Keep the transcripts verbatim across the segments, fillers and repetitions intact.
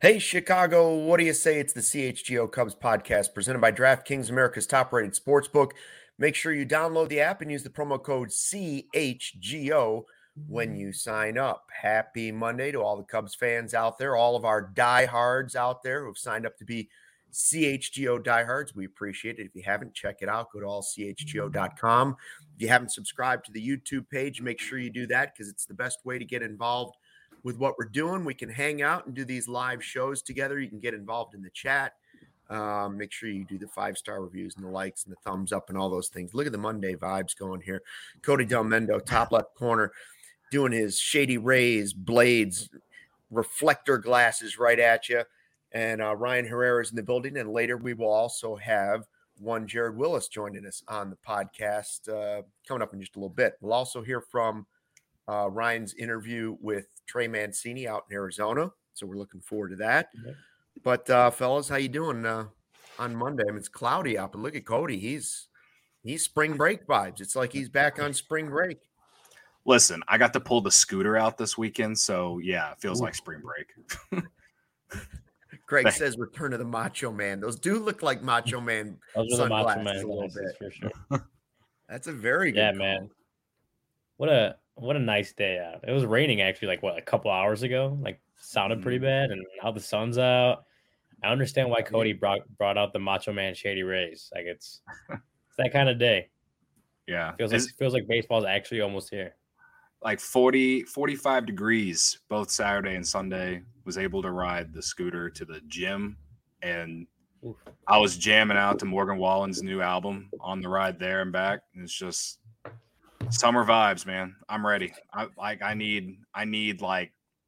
Hey, Chicago, what do you say? It's the C H G O Cubs podcast presented by DraftKings, America's top-rated sportsbook. Make sure you download the app and use the promo code C H G O when you sign up. Happy Monday to all the Cubs fans out there, all of our diehards out there who have signed up to be C H G O diehards. We appreciate it. If you haven't, check it out. Go to all c h g o dot com. If you haven't subscribed to the YouTube page, make sure you do that because it's the best way to get involved with what we're doing. We can hang out and do these live shows together. You can get involved in the chat. Um, make sure you do the five-star reviews and the likes and the thumbs up and all those things. Look at the Monday vibes going here. Cody Del Mendo, top left corner, doing his Shady Rays, Blades, reflector glasses right at you. And uh, Ryan Herrera is in the building. And later we will also have one Jared Willis joining us on the podcast uh, coming up in just a little bit. We'll also hear from Uh, Ryan's interview with Trey Mancini out in Arizona. So we're looking forward to that. Mm-hmm. But uh, fellas, how you doing uh, on Monday? I mean, it's cloudy out, but look at Cody. He's he's spring break vibes. It's like he's back on spring break. Listen, I got to pull the scooter out this weekend. So yeah, it feels Ooh. like spring break. Greg says return to the Macho Man. Those do look like Macho Man Those sunglasses Macho Man a little bit. For sure. That's a very good Yeah, call. man. What a what a nice day out. It was raining actually like what a couple hours ago. Like sounded pretty bad, and now the sun's out. I understand why Cody brought brought out the Macho Man Shady Rays. Like it's it's that kind of day. Yeah. It feels like it feels like baseball's actually almost here. Like forty, forty-five degrees both Saturday and Sunday. Was able to ride the scooter to the gym, and Oof. I was jamming out to Morgan Wallen's new album on the ride there and back. And it's just summer vibes, man. I'm ready. I like I need I need like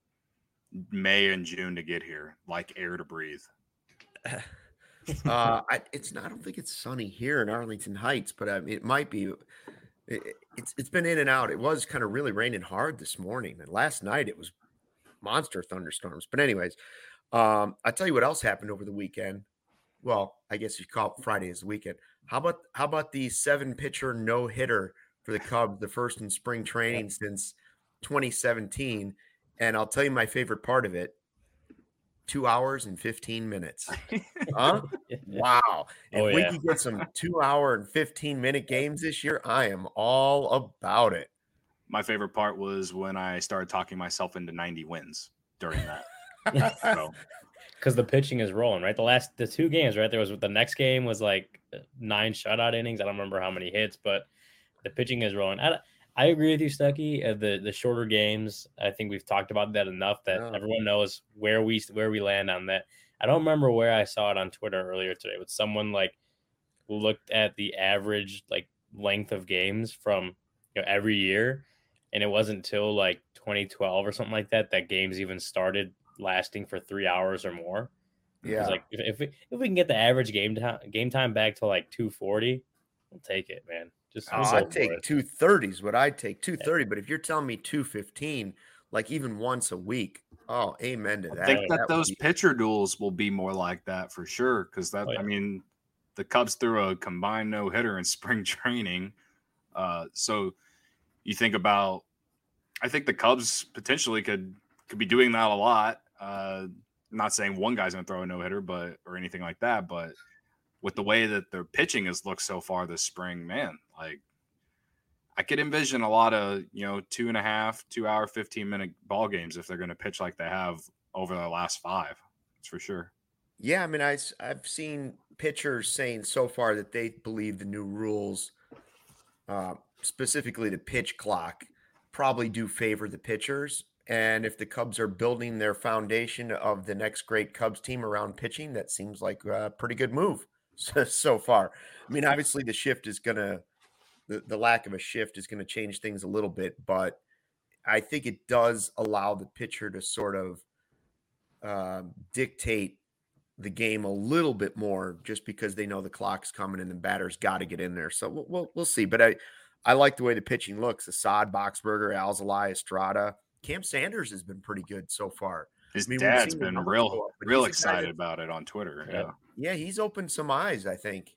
May and June to get here, like air to breathe. uh I, it's not I don't think it's sunny here in Arlington Heights, but I mean, it might be. It, it's it's been in and out. It was kind of really raining hard this morning, and last night it was monster thunderstorms. But anyways, um I'll tell you what else happened over the weekend. Well, I guess you call it Friday as the weekend. How about how about the seven pitcher no hitter for the Cubs, the first in spring training since twenty seventeen. And I'll tell you my favorite part of it, two hours and fifteen minutes. Huh? Wow. If oh, we yeah. can get some two hour and fifteen minute games this year, I am all about it. My favorite part was when I started talking myself into ninety wins during that. so. Because the pitching is rolling, right? The last, the two games, right? There was the next game was like nine shutout innings. I don't remember how many hits, but the pitching is rolling. I, I agree with you, Stuckey. Uh, the the shorter games, I think we've talked about that enough that yeah. everyone knows where we where we land on that. I don't remember where I saw it on Twitter earlier today, but someone like looked at the average like length of games from you know every year, and it wasn't until like twenty twelve or something like that that games even started lasting for three hours or more. Yeah, like if if we, if we can get the average game time game time back to like two forty, we'll take it, man. Just oh, I'd take two thirties. What I'd take two thirty, yeah. But if you're telling me two fifteen, like even once a week, oh, amen to that. I think that, that those be... pitcher duels will be more like that for sure. Because that, oh, yeah. I mean, the Cubs threw a combined no hitter in spring training. Uh, so you think about, I think the Cubs potentially could could be doing that a lot. Uh, I'm not saying one guy's going to throw a no hitter, but or anything like that, but with the way that their pitching has looked so far this spring, man, like I could envision a lot of, you know, two and a half, two hour, fifteen minute ball games if they're going to pitch like they have over the last five. That's for sure. Yeah. I mean, I, I've seen pitchers saying so far that they believe the new rules, uh, specifically the pitch clock, probably do favor the pitchers. And if the Cubs are building their foundation of the next great Cubs team around pitching, that seems like a pretty good move so, so far. I mean, obviously the shift is going to, the, the lack of a shift is going to change things a little bit, but I think it does allow the pitcher to sort of uh, dictate the game a little bit more just because they know the clock's coming and the batter's got to get in there. So we'll, we'll, we'll see. But I, I like the way the pitching looks. Assad, Boxberger, Alzolay, Estrada. Cam Sanders has been pretty good so far. His I mean, dad's been real, up, real excited that, about it on Twitter. Yeah. Yeah, he's opened some eyes, I think.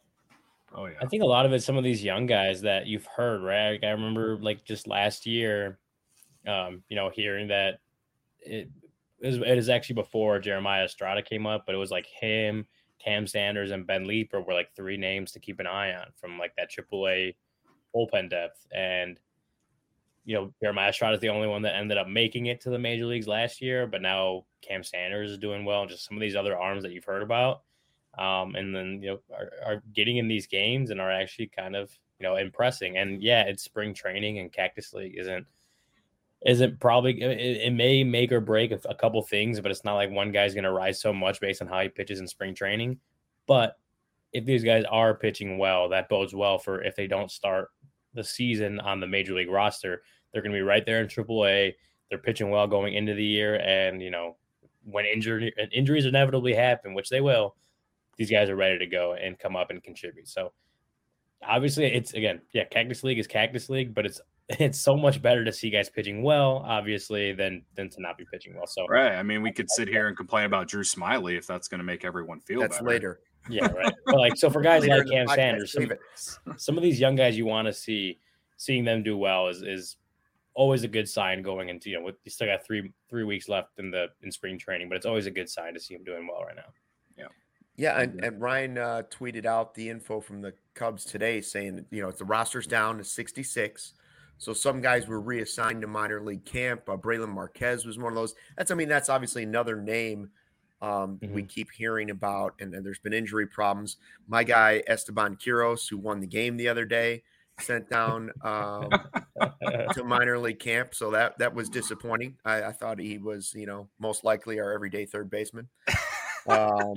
Oh, yeah. I think a lot of it, some of these young guys that you've heard, right? Like I remember like just last year, um, you know, hearing that it, it is, it is actually before Jeremiah Estrada came up, but it was like him, Cam Sanders, and Ben Leeper were like three names to keep an eye on from like that triple A bullpen depth. And, you know, Jeremiah Estrada is the only one that ended up making it to the major leagues last year, but now Cam Sanders is doing well, and just some of these other arms that you've heard about. Um, and then, you know, are, are getting in these games and are actually kind of, you know, impressing. And yeah, it's spring training, and Cactus League isn't, isn't probably, it, it may make or break a, a couple things, but it's not like one guy's going to rise so much based on how he pitches in spring training. But if these guys are pitching well, that bodes well for if they don't start the season on the major league roster, they're going to be right there in triple A. They're pitching well going into the year. And, you know, when injury injuries inevitably happen, which they will, these guys are ready to go and come up and contribute. So obviously it's, again, yeah, Cactus League is Cactus League, but it's, it's so much better to see guys pitching well, obviously, than, than to not be pitching well. So, right. I mean, we could sit here and complain about Drew Smiley if that's going to make everyone feel that's better. later. Yeah. Right. But like, so for guys like Cam Sanders, some, some of these young guys you want to see, seeing them do well is, is always a good sign going into, you know, with, you still got three, three weeks left in the, in spring training, but it's always a good sign to see him doing well right now. Yeah. Yeah, and, and Ryan uh, tweeted out the info from the Cubs today saying, you know, the roster's down to sixty-six. So some guys were reassigned to minor league camp. Uh, Braylon Marquez was one of those. That's, I mean, that's obviously another name um, mm-hmm. we keep hearing about, and, and there's been injury problems. My guy, Esteban Quiros, who won the game the other day, sent down um, to minor league camp. So that, that was disappointing. I, I thought he was, you know, most likely our everyday third baseman. Um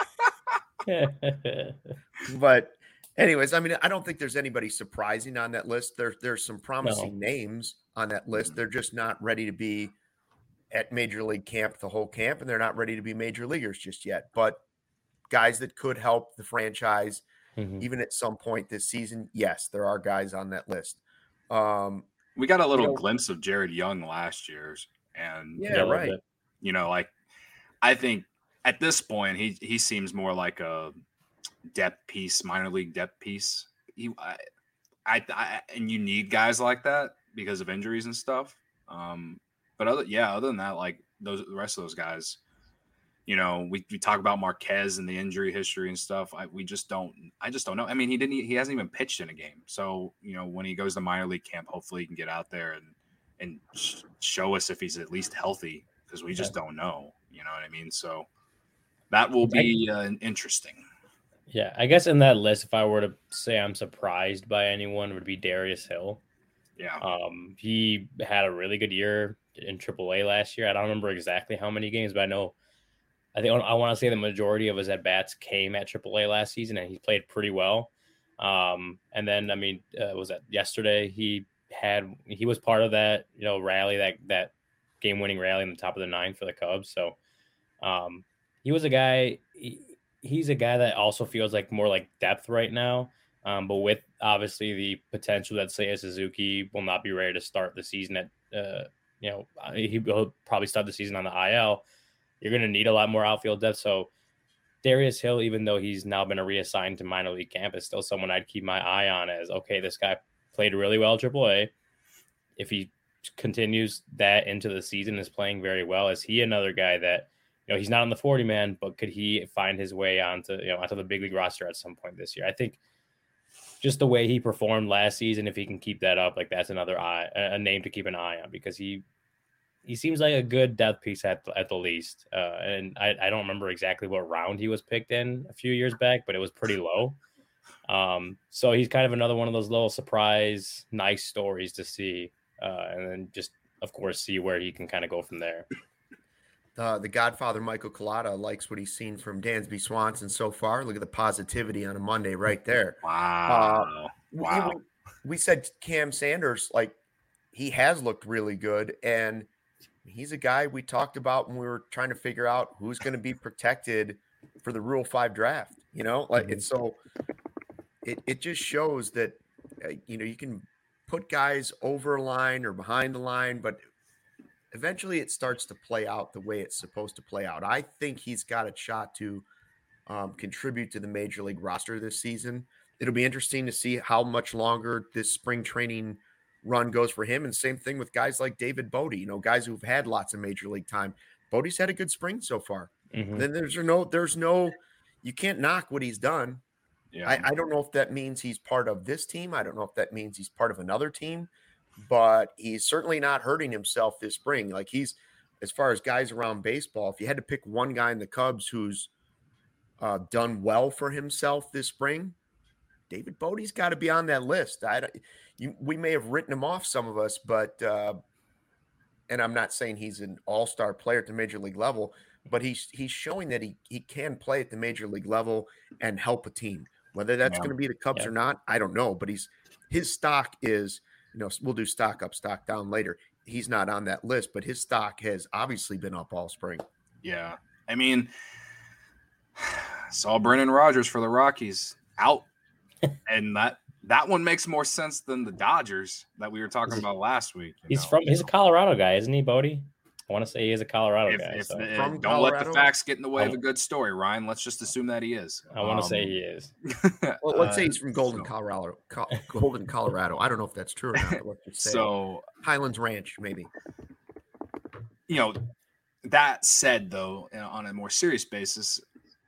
But anyways, I mean, I don't think there's anybody surprising on that list. There, there's some promising no. names on that list. They're just not ready to be at major league camp the whole camp, and they're not ready to be major leaguers just yet. But guys that could help the franchise, mm-hmm. even at some point this season, yes, there are guys on that list. Um, we got a little you know, glimpse of Jared Young last year's, and yeah, right. You know, like I think. At this point, he he seems more like a depth piece, minor league depth piece. He, I, I, I, and you need guys like that because of injuries and stuff. Um, but other, yeah, other than that, like those, the rest of those guys, you know, we, we talk about Marquez and the injury history and stuff. I, we just don't, I just don't know. I mean, he didn't, he hasn't even pitched in a game. So, you know, when he goes to minor league camp, hopefully he can get out there and, and sh- show us if he's at least healthy, because we just don't know, you know what I mean? So, that will be uh, interesting. Yeah, I guess in that list, if I were to say I'm surprised by anyone, would be Darius Hill. Yeah. Um, he had a really good year in triple A last year. I don't remember exactly how many games, but I know, I think I want to say the majority of his at-bats came at triple A last season, and he played pretty well. Um, and then, I mean, uh, was that yesterday? He had, he was part of that, you know, rally, that, that game-winning rally in the top of the ninth for the Cubs. So, um, He was a guy, he, he's a guy that also feels like more like depth right now, um, but with obviously the potential that Seiya Suzuki will not be ready to start the season at, uh, you know, he will probably start the season on the I L. You're going to need a lot more outfield depth. So Darius Hill, even though he's now been reassigned to minor league camp, is still someone I'd keep my eye on as, okay, this guy played really well at triple A. If he continues that into the season, is playing very well, is he another guy that, you know, he's not on the forty man, but could he find his way onto, you know, onto the big league roster at some point this year? I think just the way he performed last season, if he can keep that up, like that's another eye, a name to keep an eye on, because he, he seems like a good depth piece at, at the least. Uh, and I, I don't remember exactly what round he was picked in a few years back, but it was pretty low. Um, so he's kind of another one of those little surprise, nice stories to see. Uh, and then just, of course, see where he can kind of go from there. Uh, the Godfather, Michael Collada, likes what he's seen from Dansby Swanson so far. Look at the positivity on a Monday right there. Wow. Uh, wow. We, we said Cam Sanders, like, he has looked really good. And he's a guy we talked about when we were trying to figure out who's going to be protected for the Rule five draft. You know, like, it's so it, it just shows that, uh, you know, you can put guys over a line or behind the line, but eventually it starts to play out the way it's supposed to play out. I think he's got a shot to um, contribute to the major league roster this season. It'll be interesting to see how much longer this spring training run goes for him. And same thing with guys like David Bodie, you know, guys who've had lots of major league time. Bodie's had a good spring so far. Mm-hmm. Then there's no, there's no, you can't knock what he's done. Yeah. I, I don't know if that means he's part of this team. I don't know if that means he's part of another team, but he's certainly not hurting himself this spring. Like he's, as far as guys around baseball, if you had to pick one guy in the Cubs who's uh, done well for himself this spring, David Bodie's got to be on that list. I don't, you, we may have written him off, some of us, but uh, and I'm not saying he's an all-star player at the major league level, but he's he's showing that he he can play at the major league level and help a team. Whether that's yeah. going to be the Cubs yeah. or not, I don't know. But he's his stock is, you know, we'll do stock up, stock down later. He's not on that list, but his stock has obviously been up all spring. Yeah, I mean, saw Brendan Rodgers for the Rockies out, and that that one makes more sense than the Dodgers that we were talking about last week. He's know? from he's a Colorado guy, isn't he, Bodie? I want to say he is a Colorado if, guy. If so. the, don't Colorado? let the facts get in the way I'm, of a good story, Ryan. Let's just assume that he is. I want to um, say he is. Well, let's uh, say he's from Golden, so. Colorado. Co- Golden, Colorado. I don't know if that's true or not. But let's just say so Highlands Ranch, maybe. You know, that said, though, you know, on a more serious basis,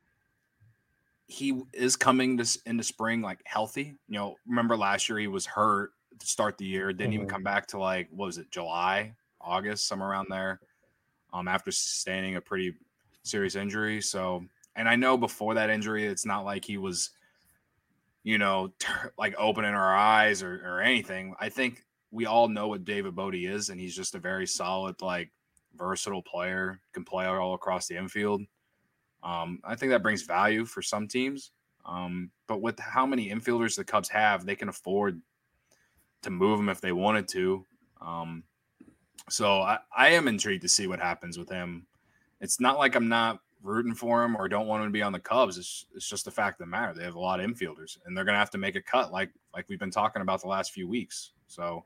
he is coming this into spring like healthy. You know, remember last year he was hurt to start the year, didn't mm-hmm. even come back to like what was it, July, August, somewhere around there. Um, after sustaining a pretty serious injury. So, and I know before that injury, it's not like he was, you know, ter- like opening our eyes or, or anything. I think we all know what David Bote is, and he's just a very solid, like versatile player, can play all across the infield. Um, I think that brings value for some teams. Um, but with how many infielders the Cubs have, they can afford to move him if they wanted to. Um, So I, I am intrigued to see what happens with him. It's not like I'm not rooting for him or don't want him to be on the Cubs. It's, it's just the fact of the matter. They have a lot of infielders, and they're going to have to make a cut like like we've been talking about the last few weeks. So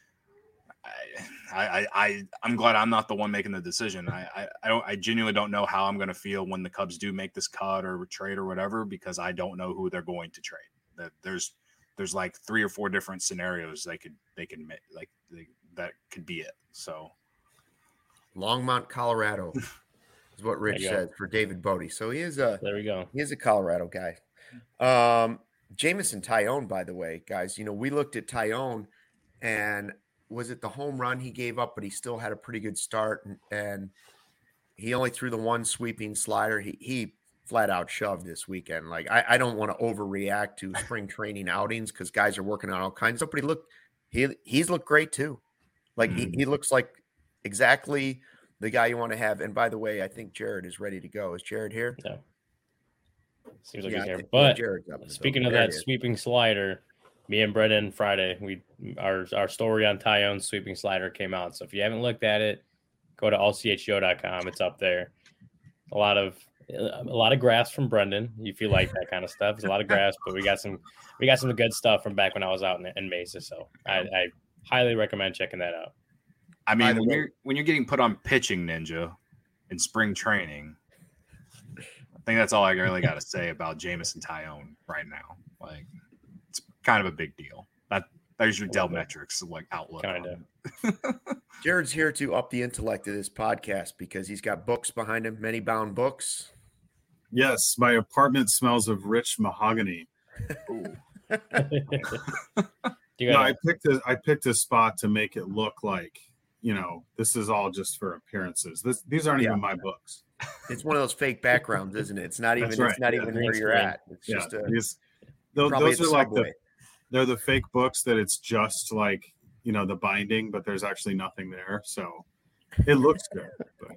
I, I, I, I'm glad I'm not the one making the decision. I, I, I don't I genuinely don't know how I'm going to feel when the Cubs do make this cut or trade or whatever, because I don't know who they're going to trade. That there's there's like three or four different scenarios they could they could make like they, that could be it. So Longmont, Colorado is what Rich said for David Bote. So he is a there we go. He is a Colorado guy. Um, Jameson Taillon, by the way, guys, you know, we looked at Taillon, and was it the home run he gave up, but he still had a pretty good start, and, and he only threw the one sweeping slider. He he flat out shoved this weekend. Like I, I don't want to overreact to spring training outings because guys are working on all kinds of stuff, but he looked he he's looked great too. Like mm-hmm. he, he looks like exactly the guy you want to have. And by the way, I think Jared is ready to go. Is Jared here? No. Seems like yeah, he's here. But speaking of there that sweeping slider, me and Brendan Friday, we our our story on Taillon's sweeping slider came out. So if you haven't looked at it, go to all c h go dot com. It's up there. A lot of a lot of graphs from Brendan. If you like that kind of stuff, it's a lot of graphs, but we got some we got some good stuff from back when I was out in, in Mesa. So I, I highly recommend checking that out. I mean, when you're when you're getting put on Pitching Ninja in spring training, I think that's all I really got to say about Jameson Taillon right now. Like, it's kind of a big deal. That there's your Dell Metrics like outlook. Kind of. Jared's here to up the intellect of this podcast because he's got books behind him, many bound books. Yes, my apartment smells of rich mahogany. Ooh. No, I picked a I picked a spot to make it look like, you know, this is all just for appearances. This these aren't yeah. even my books. It's one of those fake backgrounds, isn't it? It's not even right. it's not yeah, even where you're at. It's yeah. just a, these, those, those are like the they're the fake books that it's just like, you know, the binding, but there's actually nothing there. So it looks good. But.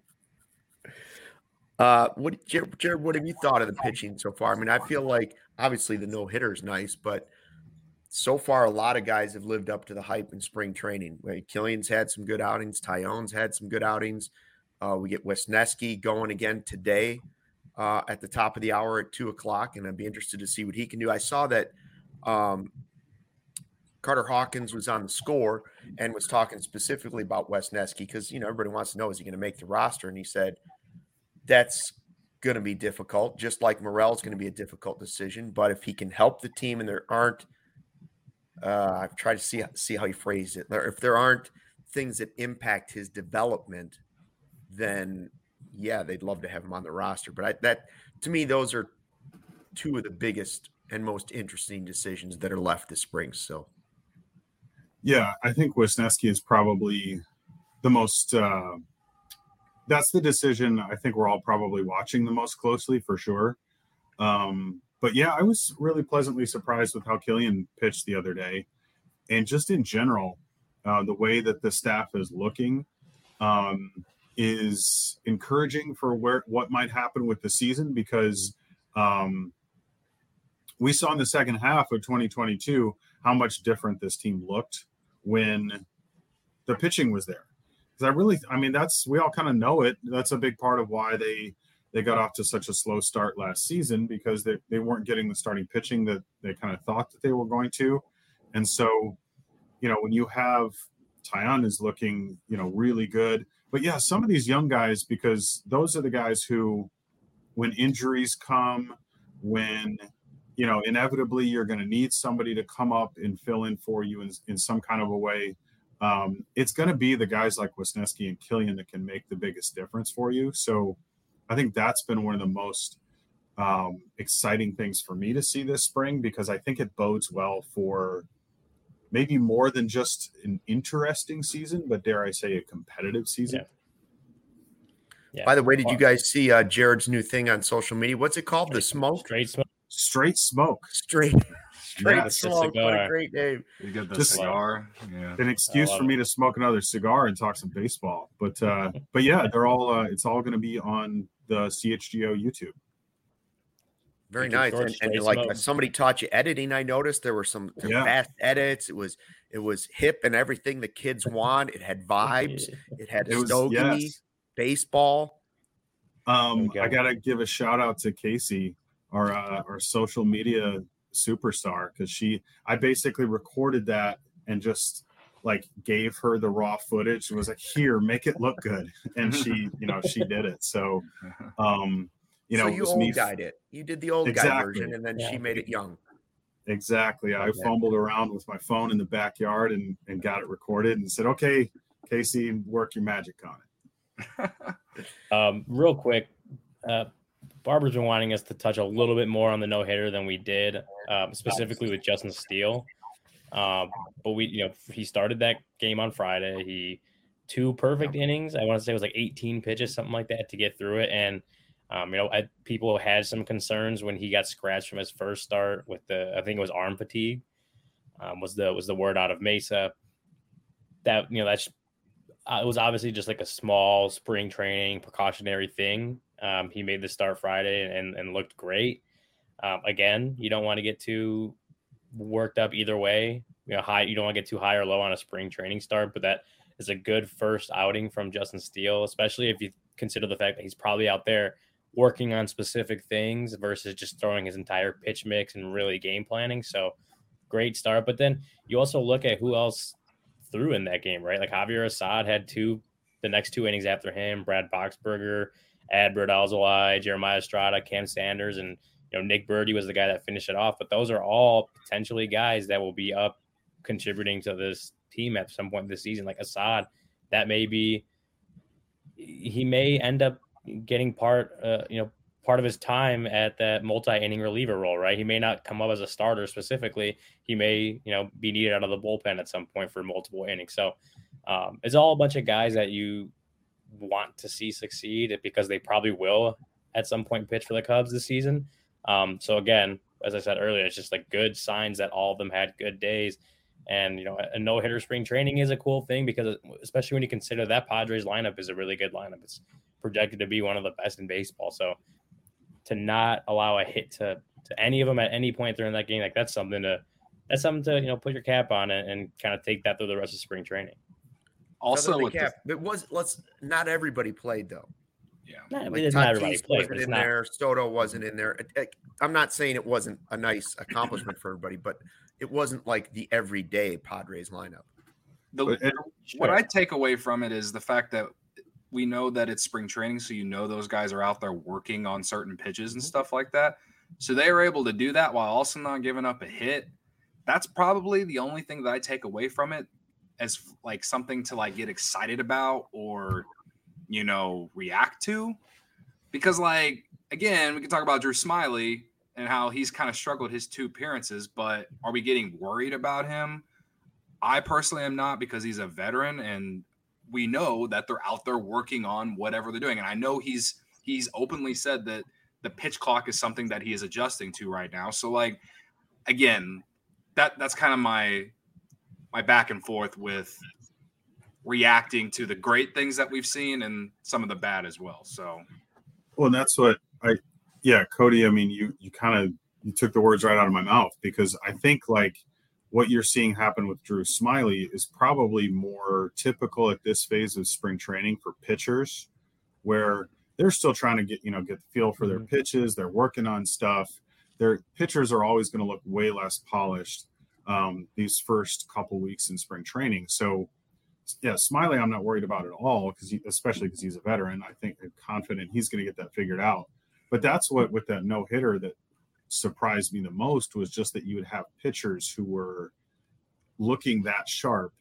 Uh, what Jared, Jared, what have you thought of the pitching so far? I mean, I feel like obviously the no hitter is nice, but so far, a lot of guys have lived up to the hype in spring training. Killian's had some good outings. Taillon's had some good outings. Uh, we get Wesneski going again today uh, at the top of the hour at two o'clock, and I'd be interested to see what he can do. I saw that um, Carter Hawkins was on the score and was talking specifically about Wesneski because, you know, everybody wants to know, is he going to make the roster? And he said, that's going to be difficult, just like Morel's going to be a difficult decision. But if he can help the team and there aren't, Uh, I've tried to see see how he phrased it. If there aren't things that impact his development, then yeah, they'd love to have him on the roster. But I, that, to me, those are two of the biggest and most interesting decisions that are left this spring. So, yeah, I think Wisniewski is probably the most. Uh, that's the decision I think we're all probably watching the most closely for sure. Um, but yeah, I was really pleasantly surprised with how Killian pitched the other day, and just in general, uh, the way that the staff is looking um, is encouraging for where what might happen with the season, because um, we saw in the second half of twenty twenty-two how much different this team looked when the pitching was there. Because I really, I mean, that's, we all kind of know it. That's a big part of why they they got off to such a slow start last season, because they, they weren't getting the starting pitching that they kind of thought that they were going to. And so, you know, when you have Taillon is looking, you know, really good. But yeah, some of these young guys, because those are the guys who, when injuries come, when, you know, inevitably you're going to need somebody to come up and fill in for you in, in some kind of a way. Um, it's going to be the guys like Wisniewski and Killian that can make the biggest difference for you. So I think that's been one of the most um, exciting things for me to see this spring, because I think it bodes well for maybe more than just an interesting season, but dare I say a competitive season. Yeah. Yeah. By the way, did you guys see uh, Jared's new thing on social media? What's it called? Straight, the smoke? Straight smoke. Straight smoke. Straight. Straight Yeah, smoke. What a great name. You get the Just cigar. Yeah. An excuse for it. me to smoke another cigar and talk some baseball. But uh, but yeah, they're all uh, it's all going to be on the C H G O YouTube. Very Making nice. sure And, it's and straight like smoke. somebody taught you editing. I noticed there were some Yeah. fast edits. It was it was hip and everything the kids want. It had vibes. It had It was stogie, yes. baseball. Um, go. I gotta give a shout out to Casey, our uh, our social media superstar, because she I basically recorded that and just like gave her the raw footage and was like, here, make it look good. And she, you know, she did it. So um, you know, so it you was old me guyed it. You did the old guy Exactly. version, and then Yeah. she made it young. Exactly. I Okay. fumbled around with my phone in the backyard and, and got it recorded and said, okay, Casey, work your magic on it. Um, real quick, uh, Barbara's been wanting us to touch a little bit more on the no hitter than we did, um, specifically with Justin Steele. Um, but we, you know, he started that game on Friday. He two perfect innings. I want to say it was like eighteen pitches, something like that, to get through it. And um, you know, I, people had some concerns when he got scratched from his first start with the, I think it was arm fatigue, um, was the was the word out of Mesa. That you know, that's uh, it was obviously just like a small spring training precautionary thing. Um, he made the start Friday and, and looked great. Um, again, you don't want to get too worked up either way. You know, high. You don't want to get too high or low on a spring training start, but that is a good first outing from Justin Steele, especially if you consider the fact that he's probably out there working on specific things versus just throwing his entire pitch mix and really game planning. So great start. But then you also look at who else threw in that game, right? Like Javier Assad had two, the next two innings after him, Brad Boxberger, Adbert Alzolay, Jeremiah Estrada, Cam Sanders, and you know, Nick Birdie was the guy that finished it off. But those are all potentially guys that will be up contributing to this team at some point this season. Like Assad, that may be, he may end up getting part, uh, you know, part of his time at that multi-inning reliever role, right? He may not come up as a starter specifically. He may, you know, be needed out of the bullpen at some point for multiple innings. So um, it's all a bunch of guys that you want to see succeed because they probably will at some point pitch for the Cubs this season. Um, so again, as I said earlier, it's just like good signs that all of them had good days. And, you know, a no-hitter spring training is a cool thing because especially when you consider that Padres lineup is a really good lineup. It's projected to be one of the best in baseball. So to not allow a hit to, to any of them at any point during that game, like that's something to, that's something to, you know, put your cap on and, and kind of take that through the rest of spring training. Also, with cap, the, it was, let's, not everybody played though. Yeah. Not, like not everybody Tatis played, wasn't in not... there. Soto wasn't in there. It, it, I'm not saying it wasn't a nice accomplishment for everybody, but it wasn't like the everyday Padres lineup. The, it, what I take away from it is the fact that we know that it's spring training, so you know those guys are out there working on certain pitches and stuff like that. So they were able to do that while also not giving up a hit. That's probably the only thing that I take away from it as like something to like get excited about or you know, react to? Because, like, again, we can talk about Drew Smyly and how he's kind of struggled his two appearances, but are we getting worried about him? I personally am not, because he's a veteran and we know that they're out there working on whatever they're doing. And I know he's he's openly said that the pitch clock is something that he is adjusting to right now. So, like, again, that that's kind of my my back and forth with reacting to the great things that we've seen and some of the bad as well. So, well, and that's what I, yeah, Cody, I mean, you, you kind of, you took the words right out of my mouth, because I think like what you're seeing happen with Drew Smyly is probably more typical at this phase of spring training for pitchers, where they're still trying to get, you know, get the feel for their Mhm. pitches. They're working on stuff. Their pitchers are always going to look way less polished um, these first couple weeks in spring training. So, yeah, Smyly, I'm not worried about at all, because especially because he's a veteran. I think I'm confident he's going to get that figured out. But that's what, with that no hitter, that surprised me the most was just that you would have pitchers who were looking that sharp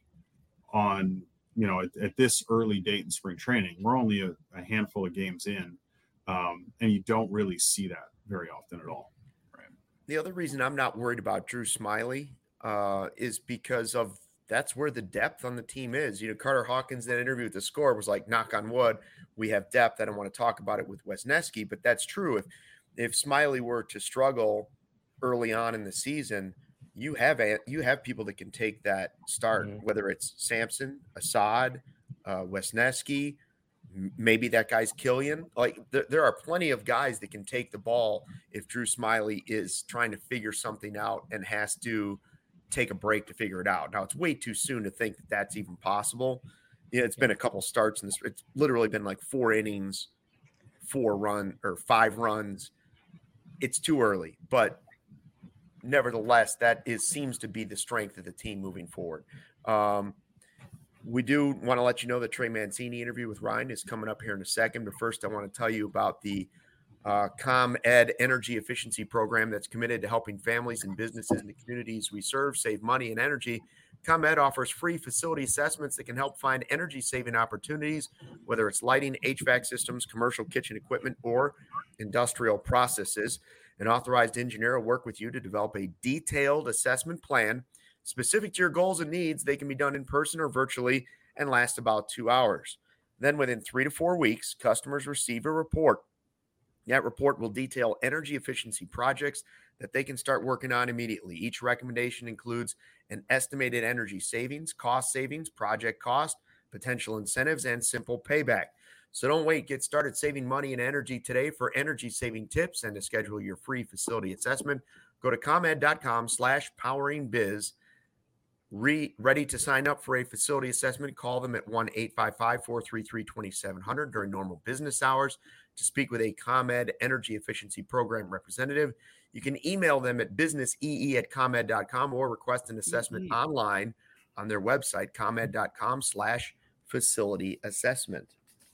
on, you know, at, at this early date in spring training. We're only a, a handful of games in, um, and you don't really see that very often at all. Right. The other reason I'm not worried about Drew Smyly uh, is because of that's where the depth on the team is. You know, Carter Hawkins in an interview with The Score was like, knock on wood, we have depth. I don't want to talk about it with Wesneski, but that's true. If if Smyly were to struggle early on in the season, you have a, you have people that can take that start, mm-hmm. whether it's Sampson, Assad, uh, Wesneski, m- maybe that guy's Killian. Like th- there are plenty of guys that can take the ball if Drew Smyly is trying to figure something out and has to take a break to figure it out. Now it's way too soon to think that that's even possible. Yeah, it's been a couple starts, and this, it's literally been like four innings, four run or five runs. It's too early, but nevertheless, that is seems to be the strength of the team moving forward. Um, we do want to let you know the Trey Mancini interview with Ryan is coming up here in a second. But first, I want to tell you about the uh, ComEd Energy Efficiency Program that's committed to helping families and businesses in the communities we serve save money and energy. ComEd offers free facility assessments that can help find energy-saving opportunities, whether it's lighting, H V A C systems, commercial kitchen equipment, or industrial processes. An authorized engineer will work with you to develop a detailed assessment plan specific to your goals and needs. They can be done in person or virtually and last about two hours. Then within three to four weeks, customers receive a report. That report will detail energy efficiency projects that they can start working on immediately. Each recommendation includes an estimated energy savings, cost savings, project cost, potential incentives, and simple payback. So don't wait. Get started saving money and energy today. For energy saving tips and to schedule your free facility assessment, go to ComEd.com slash powering biz. Re, ready to sign up for a facility assessment? Call them at one eight five five, four three three, two seven zero zero during normal business hours to speak with a ComEd Energy Efficiency Program representative. You can email them at businessee at ComEd dot com or request an assessment mm-hmm. online on their website, ComEd.com slash facility assessment.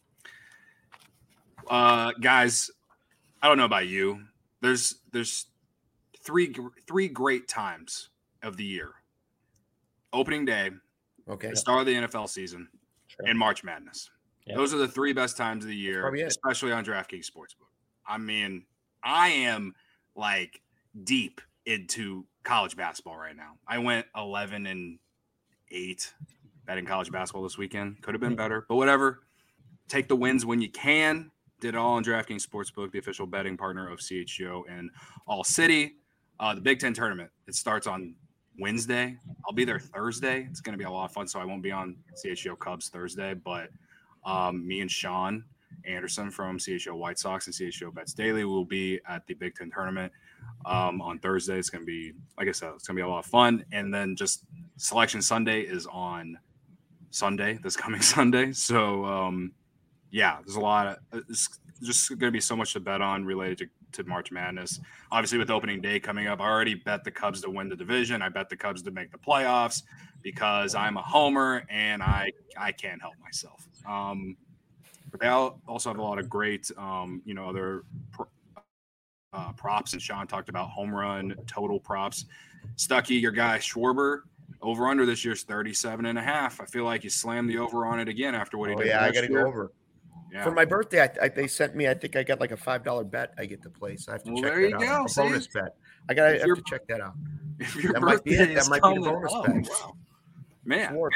Uh, guys, I don't know about you. There's there's three three great times of the year. Opening day, okay, the start of the N F L season, sure. and March Madness. Yep. Those are the three best times of the year, especially on DraftKings Sportsbook. I mean, I am like deep into college basketball right now. I went eleven and eight betting college basketball this weekend. Could have been better, but whatever. Take the wins when you can. Did it all on DraftKings Sportsbook, the official betting partner of C H G O and All City. Uh, the Big Ten tournament, it starts on Wednesday. I'll be there Thursday. It's going to be a lot of fun, so I won't be on C H G O Cubs Thursday, but um, me and Sean Anderson from C H G O White Sox and C H G O Bets Daily will be at the Big Ten tournament um, on Thursday. It's going to be, like I said, it's going to be a lot of fun. And then just Selection Sunday is on Sunday, this coming Sunday. So, um, yeah, there's a lot of it's just going to be so much to bet on related to, to March Madness. Obviously, with opening day coming up, I already bet the Cubs to win the division. I bet the Cubs to make the playoffs because I'm a homer and I I can't help myself. Um, but they also have a lot of great, um, you know, other pro, uh, props. And Sean talked about home run total props. Stucky, your guy Schwarber, over under this year's thirty-seven and a half. I feel like you slammed the over on it again after what he oh, did. Yeah, last I got to year. go over. Yeah. For my birthday, I, I, they sent me. I think I got like a five dollar bet. I get to place. I have to Well, check there that you out. go, A see? bonus bet. I got. I If have your- to check that out. If your That might be birthday it. That is might be the coming bonus up, bet. wow. Man. Sure.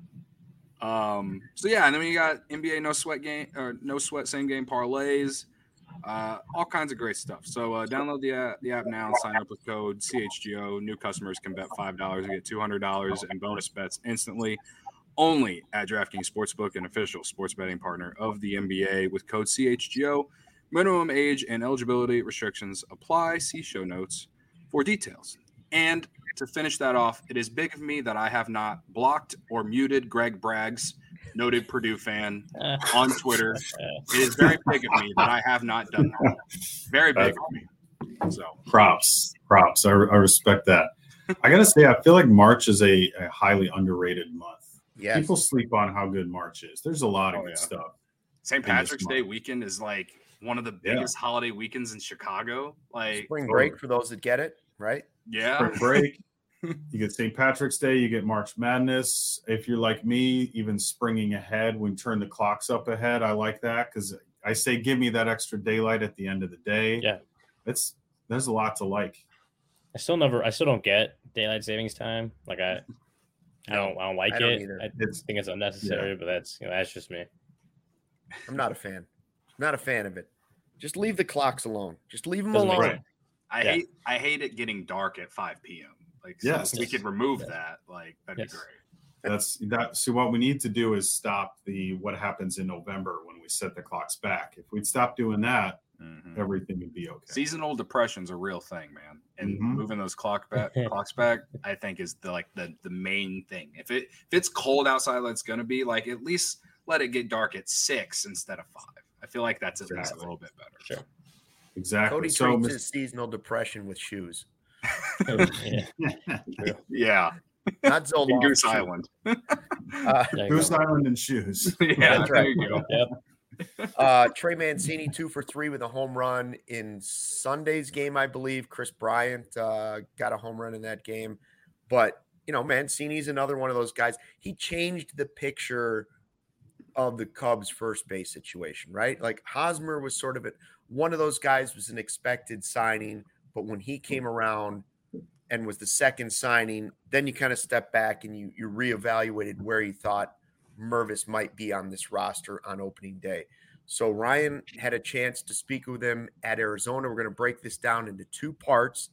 Um, so yeah, and then you got N B A no sweat game or no sweat same game parlays, uh, all kinds of great stuff. So uh, download the app, the app now and sign up with code C H G O. New customers can bet five dollars and get two hundred dollars in bonus bets instantly. Only at DraftKings Sportsbook, an official sports betting partner of the N B A, with code C H G O. Minimum age and eligibility restrictions apply. See show notes for details. And to finish that off, it is big of me that I have not blocked or muted Greg Braggs, noted Purdue fan, on Twitter. It is very big of me that I have not done that. Very big of me. So props, props. I, I respect that. I gotta say, I feel like March is a, a highly underrated month. Yes. People sleep on how good March is. There's a lot of Oh, good yeah. stuff. Saint in this Patrick's Day month. weekend is like one of the Yeah. biggest holiday weekends in Chicago. Like, Spring break for those that get it, right? yeah. Spring break. You get Saint Patrick's Day. You get March Madness. If you're like me, even springing ahead, when we turn the clocks up ahead, I like that because I say give me that extra daylight at the end of the day. Yeah. It's there's a lot to like. I still never, I still don't get daylight savings time. Like I, I don't, I don't like I don't it. either. I It's think it's unnecessary, but that's you know that's just me. I'm not a fan. Not a fan of it. Just leave the clocks alone. Just leave them Doesn't make alone. right. I Yeah. hate I hate it getting dark at five p.m. Like, so Yes. if we could remove that, like, that'd Yes. be great. That's that. So what we need to do is stop the what happens in November when we set the clocks back. If we'd stop doing that, Mhm. everything would be okay. Seasonal depression's a real thing, man. And Mhm. moving those clock back, clocks back, I think is the like the the main thing. If it if it's cold outside, like it's gonna be, like at least let it get dark at six instead of five. I feel like that's at least a Exactly. little bit better. Sure. Exactly. Cody so, treats Mis- his seasonal depression with shoes. Yeah. Yeah, Not in Zoloft. Goose shoes. Island. Uh, There you Goose go. Island and shoes. yeah, That's there right. you go. Yep. uh, Trey Mancini, two for three with a home run in Sunday's game, I believe. Chris Bryant uh, got a home run in that game. But, you know, Mancini's another one of those guys. He changed the picture of the Cubs' first base situation, right? Like Hosmer was sort of a, one of those guys was an expected signing, but when he came around and was the second signing, then you kind of step back and you you reevaluated where you thought Mervis might be on this roster on opening day. So Ryan had a chance to speak with him at Arizona. We're going to break this down into two parts.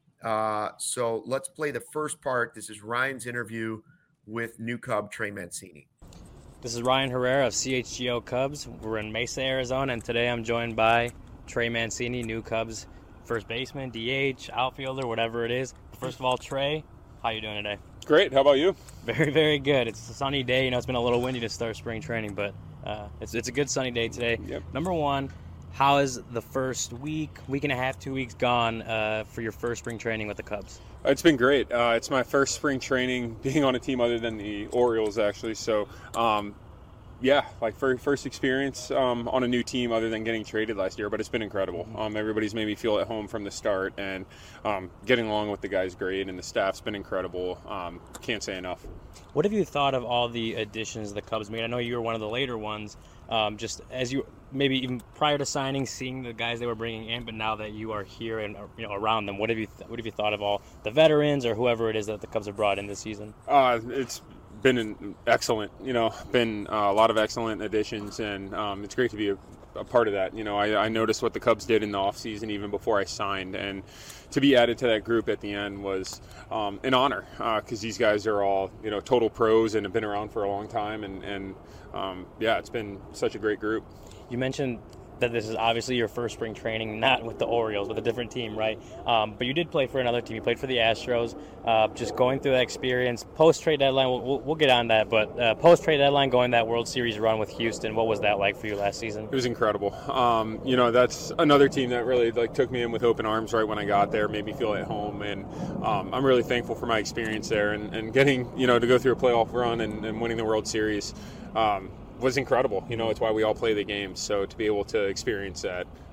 Uh, so let's play the first part. This is Ryan's interview with new Cub Trey Mancini. This is Ryan Herrera of C H G O Cubs. We're in Mesa, Arizona, and today I'm joined by Trey Mancini, new Cubs first baseman, D H, outfielder, whatever it is. First of all, Trey, how you doing today? Great. How about you? Very, very good. It's a sunny day. You know, it's been a little windy to start spring training, but uh, it's it's a good sunny day today. Yep. Number one, how is the first week, week and a half, two weeks gone uh, for your first spring training with the Cubs? It's been great. Uh, it's my first spring training being on a team other than the Orioles, actually. So, um, yeah, like for first experience um, on a new team other than getting traded last year, but it's been incredible. Um, everybody's made me feel at home from the start, and um, getting along with the guys great, and the staff's been incredible. Um, can't say enough. What have you thought of all the additions the Cubs made? I know you were one of the later ones. Um, just as you maybe even prior to signing, seeing the guys they were bringing in, but now that you are here and you know around them, what have you th- what have you thought of all the veterans or whoever it is that the Cubs have brought in this season? Uh, it's been an excellent, you know, been uh, a lot of excellent additions, and um, it's great to be a, a part of that. You know, I, I noticed what the Cubs did in the offseason even before I signed, and to be added to that group at the end was um, an honor because uh, these guys are all, you know, total pros and have been around for a long time, and, and um, yeah, it's been such a great group. You mentioned that this is obviously your first spring training, not with the Orioles, with a different team, right? Um, but you did play for another team. You played for the Astros. Uh, just going through that experience, post-trade deadline, we'll, we'll, we'll get on that, but uh, post-trade deadline, going that World Series run with Houston, what was that like for you last season? It was incredible. Um, you know, that's another team that really like took me in with open arms right when I got there, made me feel at home, and um, I'm really thankful for my experience there, and, and getting, you know, to go through a playoff run and, and winning the World Series. Um, was incredible. You know, it's why we all play the games. So to be able to experience that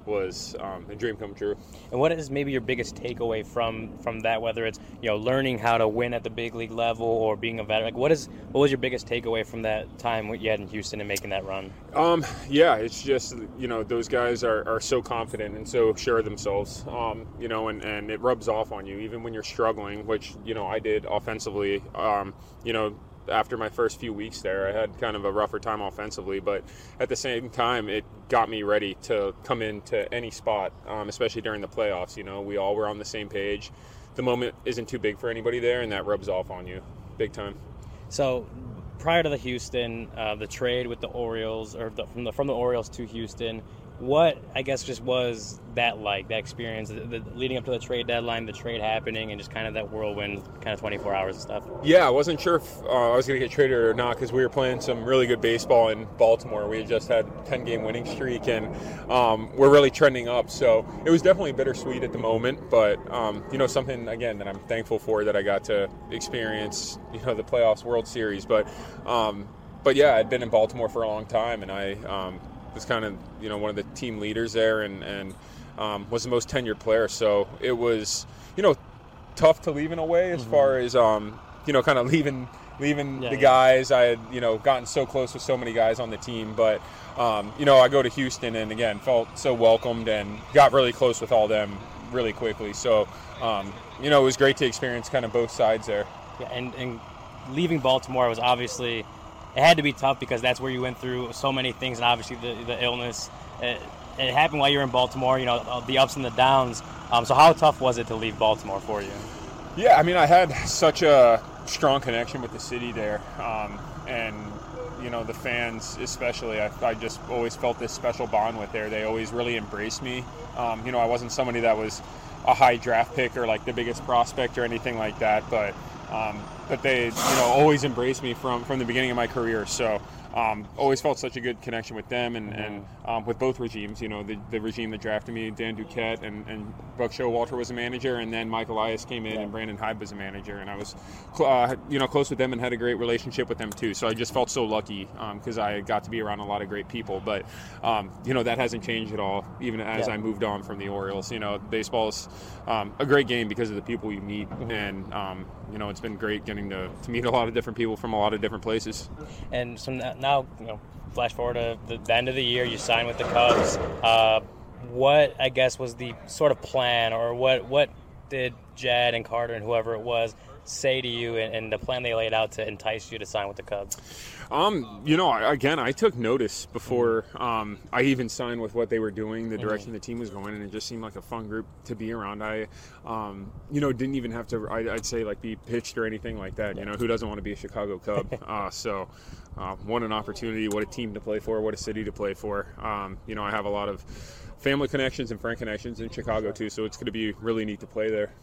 was um, a dream come true. And what is maybe your biggest takeaway from from that, whether it's, you know, learning how to win at the big league level or being a veteran? Like, what is what was your biggest takeaway from that time what you had in Houston and making that run? Um, yeah, it's just, you know, those guys are, are so confident and so sure of themselves, um, you know, and, and it rubs off on you even when you're struggling, which, you know, I did offensively, um, you know, after my first few weeks there. I had kind of a rougher time offensively, but at the same time, it got me ready to come into any spot, um, especially during the playoffs. You know, we all were on the same page. The moment isn't too big for anybody there, and that rubs off on you big time. So prior to the Houston, uh, the trade with the Orioles, or the, from the from the Orioles to Houston, what, I guess, just was that like, that experience, the, the, leading up to the trade deadline, the trade happening, and just kind of that whirlwind kind of twenty-four hours and stuff? Yeah, I wasn't sure if uh, I was going to get traded or not because we were playing some really good baseball in Baltimore. We had just had a ten-game winning streak, and um, we're really trending up. So it was definitely bittersweet at the moment, but, um, you know, something, again, that I'm thankful for, that I got to experience, you know, the playoffs, World Series. But, um, but yeah, I'd been in Baltimore for a long time, and I um, – was kind of, you know, one of the team leaders there, and, and um, was the most tenured player. So it was, you know, tough to leave in a way, as mm-hmm. far as, um, you know, kind of leaving leaving yeah, the yeah. guys. I had, you know, gotten so close with so many guys on the team. But, um, you know, I go to Houston and, again, felt so welcomed and got really close with all them really quickly. So, um, you know, it was great to experience kind of both sides there. Yeah, and, and leaving Baltimore was obviously – it had to be tough because that's where you went through so many things, and obviously the, the illness. It, it happened while you were in Baltimore, you know, the ups and the downs. Um, so how tough was it to leave Baltimore for you? Yeah, I mean, I had such a strong connection with the city there, um, and, you know, the fans especially. I, I just always felt this special bond with there. They always really embraced me. Um, you know, I wasn't somebody that was a high draft pick or like the biggest prospect or anything like that, but um, but they, you know, always embraced me from, from the beginning of my career. So um, always felt such a good connection with them and, and um, with both regimes. You know, the, the regime that drafted me, Dan Duquette and, and Buck Showalter was a manager, and then Mike Elias came in yeah. and Brandon Hyde was a manager, and I was, uh, you know, close with them and had a great relationship with them too. So I just felt so lucky because um, I got to be around a lot of great people. But um, you know, that hasn't changed at all, even as yeah. I moved on from the Orioles. You know, baseball is um, a great game because of the people you meet, mm-hmm. and um, you know, it's been great getting to, to meet a lot of different people from a lot of different places. And so now, you know, flash forward to the, the end of the year, you signed with the Cubs. Uh, what, I guess, was the sort of plan, or what what did Jed and Carter and whoever it was say to you, and, and the plan they laid out to entice you to sign with the Cubs? Um, you know, again, I took notice before um, I even signed with what they were doing, the direction mm-hmm. the team was going, and it just seemed like a fun group to be around. I, um, you know, didn't even have to, I, I'd say, like, be pitched or anything like that. You know, who doesn't want to be a Chicago Cub? uh, so, uh, what an opportunity, what a team to play for, what a city to play for. Um, you know, I have a lot of family connections and friend connections in Chicago, too, so it's going to be really neat to play there.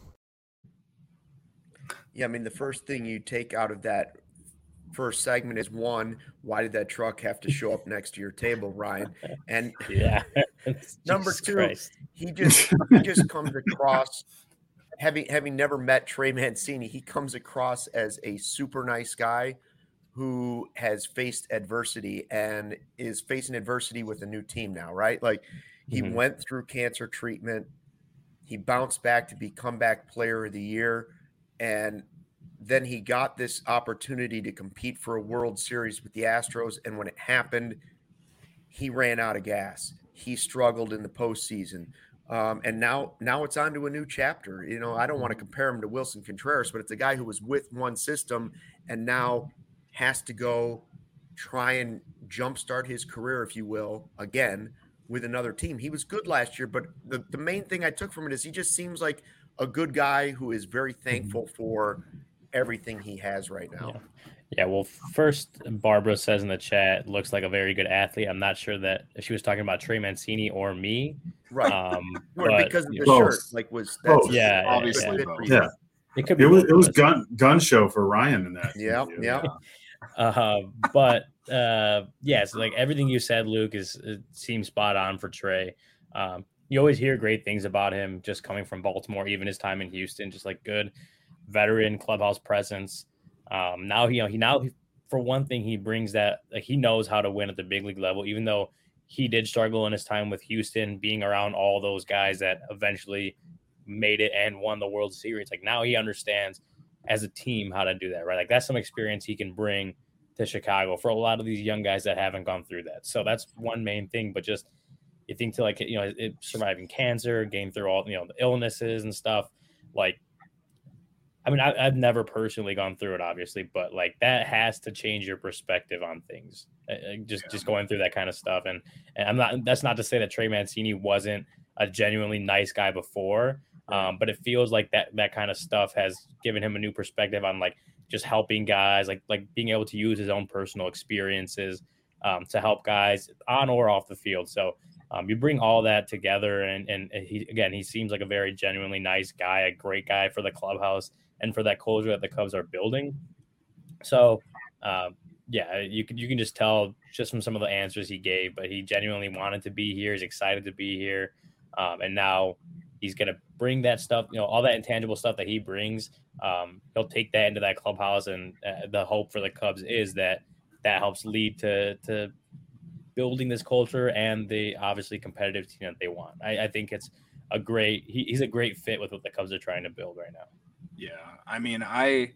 Yeah, I mean, the first thing you take out of that first segment is, one, why did that truck have to show up next to your table, Ryan? And yeah, number Jesus two, Christ. he just he just comes across, having having never met Trey Mancini, he comes across as a super nice guy who has faced adversity and is facing adversity with a new team now, right? Like, he mm-hmm. went through cancer treatment, he bounced back to be comeback player of the year, and then he got this opportunity to compete for a World Series with the Astros. And when it happened, he ran out of gas. He struggled in the postseason. Um, and now, now it's on to a new chapter. You know, I don't want to compare him to Wilson Contreras, but it's a guy who was with one system and now has to go try and jumpstart his career, if you will, again with another team. He was good last year, but the, the main thing I took from it is he just seems like a good guy who is very thankful for everything he has right now. Yeah. yeah. Well, first, Barbara says in the chat, looks like a very good athlete. I'm not sure that if she was talking about Trey Mancini or me. Right. Um, or but, because of the both. shirt, like was that's Both. yeah, obviously. yeah. Yeah. It could be. It was it was gun gun show for Ryan in that. Yeah. video. Yeah. Uh, but uh, yeah, so like everything you said, Luke, is it seems spot on for Trey. Um, you always hear great things about him just coming from Baltimore, even his time in Houston, just like good veteran clubhouse presence. Um, now he, you know, he now he, for one thing, he brings that, like, he knows how to win at the big league level, even though he did struggle in his time with Houston, being around all those guys that eventually made it and won the World Series. Like now he understands as a team how to do that, right? Like that's some experience he can bring to Chicago for a lot of these young guys that haven't gone through that. So that's one main thing. But just you think to like, you know, it, surviving cancer, getting through all, you know, the illnesses and stuff. Like, I mean, I, I've never personally gone through it, obviously, but like that has to change your perspective on things. Uh, just, yeah. just going through that kind of stuff. And, and I'm not, that's not to say that Trey Mancini wasn't a genuinely nice guy before. Um, but it feels like that, that kind of stuff has given him a new perspective on like just helping guys, like, like being able to use his own personal experiences um, to help guys on or off the field. So um, you bring all that together and, and he, again, he seems like a very genuinely nice guy, a great guy for the clubhouse and for that culture that the Cubs are building. So uh, yeah, you can, you can just tell just from some of the answers he gave, but he genuinely wanted to be here. He's excited to be here. Um, and now he's going to bring that stuff, you know, all that intangible stuff that he brings. Um, he'll take that into that clubhouse. And uh, the hope for the Cubs is that that helps lead to, to building this culture and the obviously competitive team that they want. I, I think it's a great, he, he's a great fit with what the Cubs are trying to build right now. Yeah. I mean, I,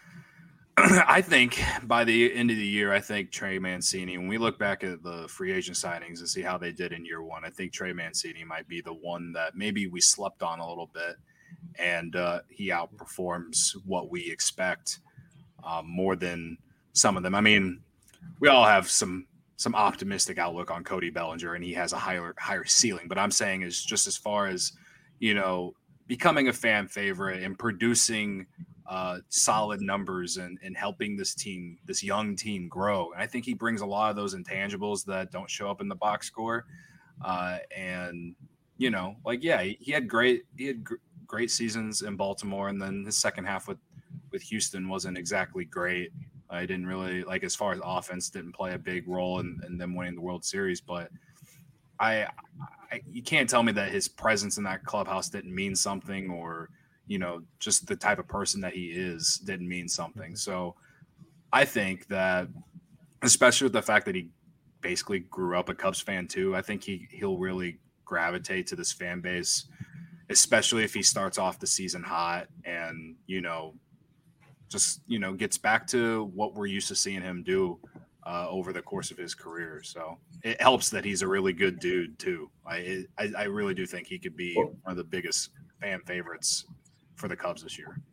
I think by the end of the year, I think Trey Mancini, when we look back at the free agent signings and see how they did in year one, I think Trey Mancini might be the one that maybe we slept on a little bit, and uh, he outperforms what we expect um, more than some of them. I mean, we all have some some optimistic outlook on Cody Bellinger, and he has a higher higher ceiling. But I'm saying is just as far as, you know, becoming a fan favorite and producing uh, solid numbers and, and helping this team, this young team grow. And I think he brings a lot of those intangibles that don't show up in the box score. Uh, and, you know, like, yeah, he, he had great, he had gr- great seasons in Baltimore. And then his second half with, with Houston wasn't exactly great. I didn't really like, as far as offense, didn't play a big role in, in them winning the World Series, but I, I, you can't tell me that his presence in that clubhouse didn't mean something, or, you know, just the type of person that he is didn't mean something. So I think that, especially with the fact that he basically grew up a Cubs fan too, I think he, he'll really gravitate to this fan base, especially if he starts off the season hot and, you know, just, you know, gets back to what we're used to seeing him do uh, over the course of his career. So it helps that he's a really good dude too. I, I, I really do think he could be one of the biggest fan favorites for the Cubs this year.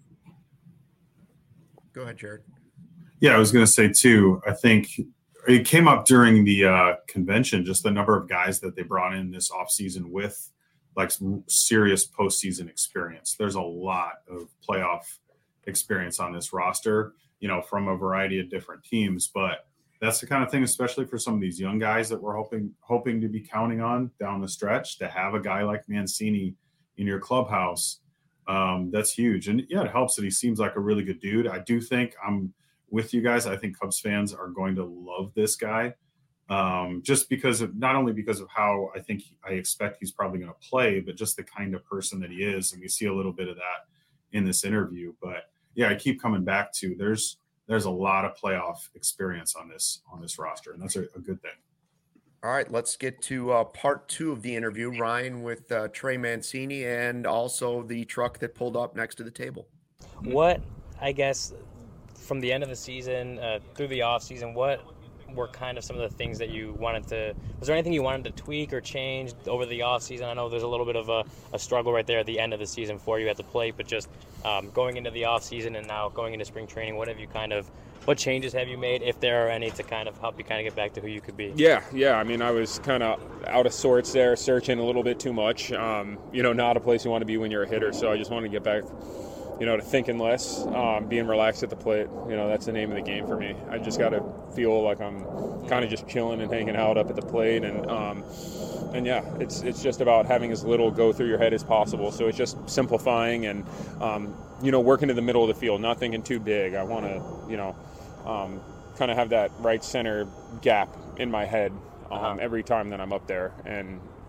Go ahead, Jared. Yeah, I was going to say too, I think it came up during the uh, convention, just the number of guys that they brought in this offseason with like some serious postseason experience. There's a lot of playoff experience on this roster, you know, from a variety of different teams. But that's the kind of thing, especially for some of these young guys that we're hoping hoping to be counting on down the stretch, to have a guy like Mancini in your clubhouse. Um, that's huge. And yeah, it helps that he seems like a really good dude. I do think I'm with you guys. I think Cubs fans are going to love this guy. Um, just because of, not only because of how I think he, I expect he's probably going to play, but just the kind of person that he is. And we see a little bit of that in this interview, but yeah, I keep coming back to there's, there's a lot of playoff experience on this, on this roster. And that's a, a good thing. All right, let's get to uh, part two of the interview, Ryan, with uh, Trey Mancini and also the truck that pulled up next to the table. What, I guess, from the end of the season uh, through the off season, what were kind of some of the things that you wanted to, was there anything you wanted to tweak or change over the off season? I know there's a little bit of a, a struggle right there at the end of the season for you at the plate, but just um, going into the off season and now going into spring training, what have you kind of, what changes have you made, if there are any, to kind of help you kind of get back to who you could be? Yeah, yeah. I mean, I was kind of out of sorts there, searching a little bit too much. Um, you know, not a place you want to be when you're a hitter. So I just wanted to get back, you know, to thinking less, um, being relaxed at the plate. You know, that's the name of the game for me. I just got to feel like I'm kind of just chilling and hanging out up at the plate. And, um, and yeah, it's it's just about having as little go through your head as possible. So it's just simplifying and, um, you know, working to the middle of the field, not thinking too big. I want to, you know, um, kind of have that right center gap in my head um, uh-huh. every time that I'm up there. And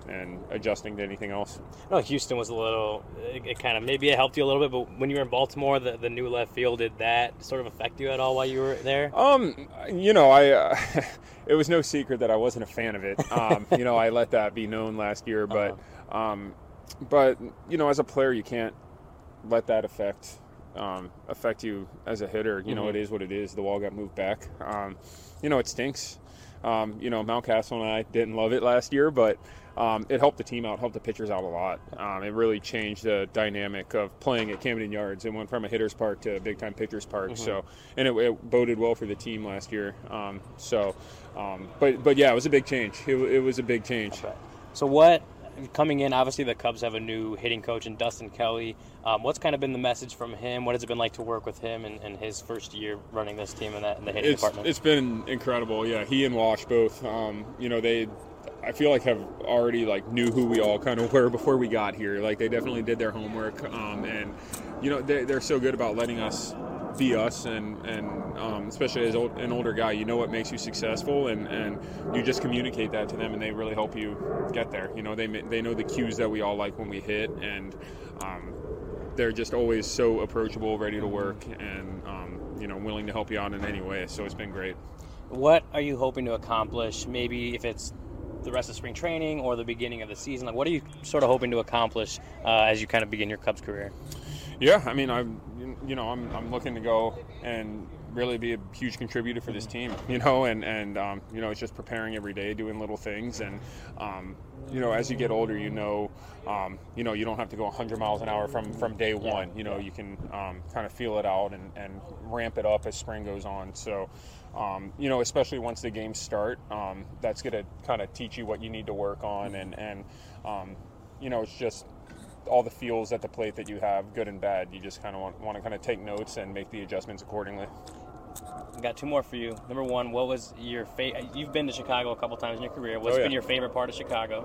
and adjusting to anything else. No, Houston was a little, it, it kind of, maybe it helped you a little bit, but when you were in Baltimore, the, the new left field, did that sort of affect you at all while you were there? Um, you know, I, uh, it was no secret that I wasn't a fan of it. Um, you know, I let that be known last year, but, uh-huh. um, but, you know, as a player, you can't let that affect, um, affect you as a hitter. You mm-hmm. know, it is what it is. The wall got moved back. Um, you know, it stinks. Um, you know, Mountcastle and I didn't love it last year, but um, it helped the team out, helped the pitchers out a lot. Um, it really changed the dynamic of playing at Camden Yards. It went from a hitter's park to a big-time pitcher's park. Mm-hmm. So, and it, it boded well for the team last year. Um, so, um, but but yeah, it was a big change. It, it was a big change. Okay. So what? Coming in, obviously the Cubs have a new hitting coach in Dustin Kelly. Um, what's kind of been the message from him? What has it been like to work with him in, in his first year running this team in, that, in the hitting it's, department? It's been incredible. Yeah, he and Wash both. Um, you know, they, I feel like have already like knew who we all kind of were before we got here. Like they definitely did their homework, um, and you know they, they're so good about letting us be us, and and um, especially as old, an older guy, you know what makes you successful, and, and you just communicate that to them, and they really help you get there. You know, they they know the cues that we all like when we hit, and um, they're just always so approachable, ready to work, and um, you know, willing to help you out in any way. So it's been great. What are you hoping to accomplish? Maybe if it's the rest of spring training or the beginning of the season, like what are you sort of hoping to accomplish uh, as you kind of begin your Cubs career? Yeah, I mean, I'm, you know, I'm, I'm looking to go and really be a huge contributor for this team, you know, and, and um, you know, it's just preparing every day, doing little things. And, um, you know, as you get older, you know, um, you know, you don't have to go one hundred miles an hour from, from day one. You know, you can um, kind of feel it out and, and ramp it up as spring goes on. So, um, you know, especially once the games start, um, that's going to kind of teach you what you need to work on. And, and um, you know, it's just all the feels at the plate that you have, good and bad. You just kind of want, want to kind of take notes and make the adjustments accordingly. I got two more for you. Number one, what was your favorite? You've been to Chicago a couple times in your career. What's oh, yeah. been your favorite part of Chicago?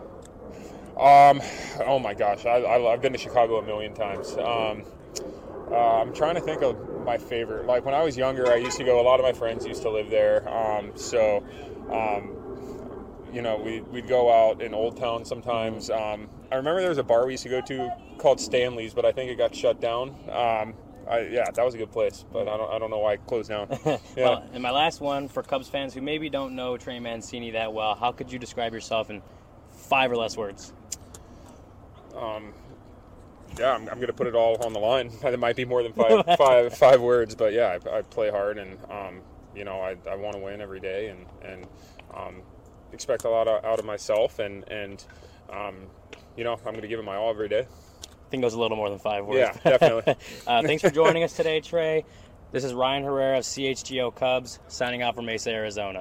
Um, oh my gosh, I, I, I've been to Chicago a million times. Um, uh, I'm trying to think of my favorite. Like when I was younger, I used to go. A lot of my friends used to live there. Um, so, um, you know, we we'd go out in Old Town sometimes. Um, I remember there was a bar we used to go to called Stanley's, but I think it got shut down. Um, I, yeah, that was a good place, but I don't I don't know why it closed down. Yeah. Well, and my last one for Cubs fans who maybe don't know Trey Mancini that well, how could you describe yourself in five or less words? Um, yeah, I'm, I'm going to put it all on the line. It might be more than five five five words, but yeah, I, I play hard, and um, you know, I, I want to win every day, and and um, expect a lot out of myself, and and um, you know, I'm going to give it my all every day. I think it was a little more than five words. Yeah, definitely. uh, thanks for joining us today, Trey. This is Ryan Herrera of C H G O Cubs, signing out from Mesa, Arizona.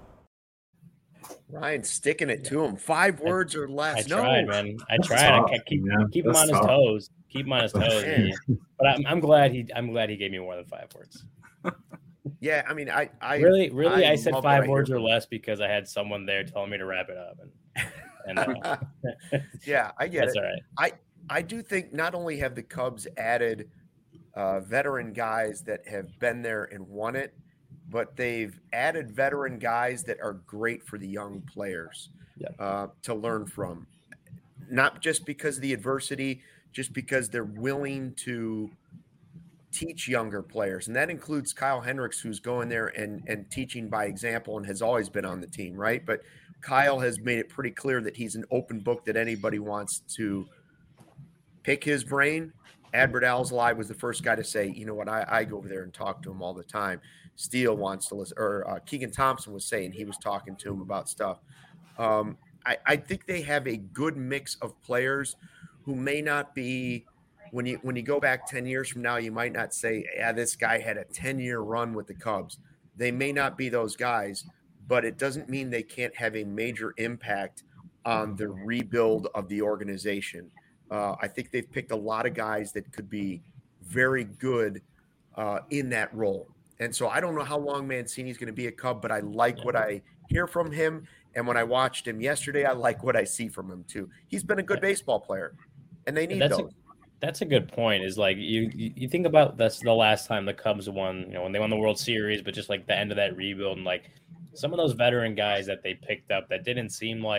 Ryan sticking it to him. Five words or less. I no. tried, man. I tried. Tough, I keep, keep him on his tough. toes. Keep him on his toes. But I'm, I'm glad he. I'm glad he gave me more than five words. Yeah, I mean, I, I really, really, I, I said five words or less because I had someone there telling me to wrap it up, and, and uh, yeah, I get that's it. all right. I, I do think not only have the Cubs added uh, veteran guys that have been there and won it, but they've added veteran guys that are great for the young players yeah. uh, to learn from. Not just because of the adversity, just because they're willing to teach younger players. And that includes Kyle Hendricks, who's going there and, and teaching by example and has always been on the team, right? But Kyle has made it pretty clear that he's an open book that anybody wants to pick his brain. Adbert Alzolay was the first guy to say, you know what, I, I go over there and talk to him all the time. Steele wants to listen, or uh, Keegan Thompson was saying he was talking to him about stuff. Um, I, I think they have a good mix of players who may not be, when you when you go back ten years from now, you might not say, yeah, this guy had a ten-year run with the Cubs. They may not be those guys, but it doesn't mean they can't have a major impact on the rebuild of the organization. Uh, I think they've picked a lot of guys that could be very good uh, in that role. And so I don't know how long Mancini's going to be a Cub, but I like what I hear from him. And when I watched him yesterday, I like what I see from him too. He's been a good baseball player, and they need that's those. A, that's a good point. Is like you you think about that's the last time the Cubs won, you know, when they won the World Series, but just like the end of that rebuild, and like some of those veteran guys that they picked up that didn't seem like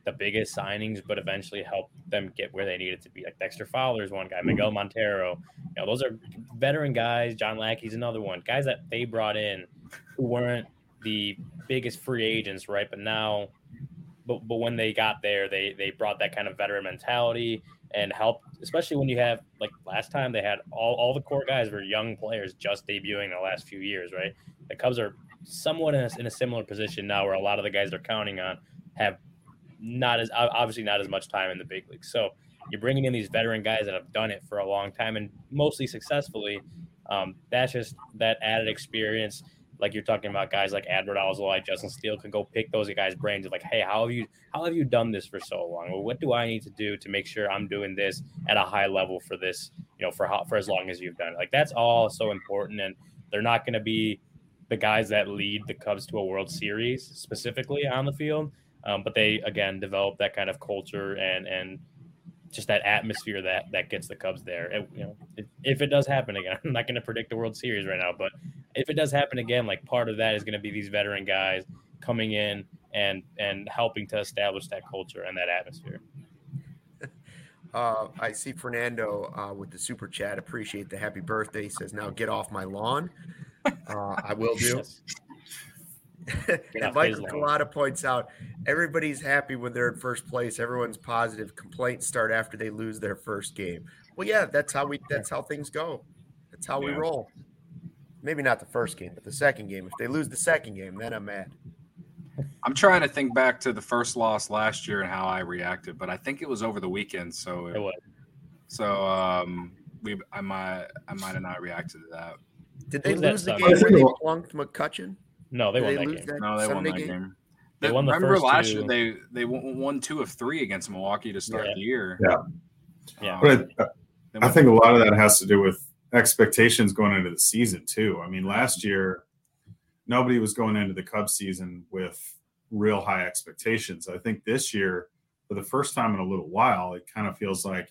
the biggest signings, but eventually helped them get where they needed to be. Like Dexter Fowler's one guy, Miguel Montero. You know, those are veteran guys. John Lackey's another one. Guys that they brought in who weren't the biggest free agents, right? But now, but but when they got there, they they brought that kind of veteran mentality and helped, especially when you have, like last time they had all, all the core guys were young players just debuting the last few years, right? The Cubs are somewhat in a, in a similar position now where a lot of the guys they're counting on have not as obviously not as much time in the big leagues. So you're bringing in these veteran guys that have done it for a long time and mostly successfully. Um, that's just that added experience. Like you're talking about guys like Adbert Alzolay, Justin Steele can go pick those guys' brains of like, hey, how have you how have you done this for so long? Well, what do I need to do to make sure I'm doing this at a high level for this, you know, for how, for as long as you've done it? Like that's all so important. And they're not going to be the guys that lead the Cubs to a World Series specifically on the field. Um, but they, again, develop that kind of culture and and just that atmosphere that that gets the Cubs there. It, you know, if, if it does happen again, I'm not going to predict the World Series right now, but if it does happen again, like part of that is going to be these veteran guys coming in and and helping to establish that culture and that atmosphere. Uh, I see Fernando uh, with the super chat. Appreciate the happy birthday. He says, "Now get off my lawn." Uh, I will do. Yes. And Michael Collada points out everybody's happy when they're in first place. Everyone's positive. Complaints start after they lose their first game. Well, yeah, that's how we. That's how things go. That's how we Yeah. roll. Maybe not the first game, but the second game. If they lose the second game, then I'm mad. I'm trying to think back to the first loss last year and how I reacted, but I think it was over the weekend. So, It was. so um, we, I might, I might have not reacted to that. Did they Who's that lose the son? game where they plunked McCutcheon? No, they Did won they that lose game. that No, they Sunday won that game? game. They won the Remember first last two. year they they won, won two of three against Milwaukee to start Yeah. the year. Yeah. Yeah. Um, But I, they I went- think a lot of that has to do with expectations going into the season too. I mean, last year nobody was going into the Cubs season with real high expectations. I think this year, for the first time in a little while, it kind of feels like,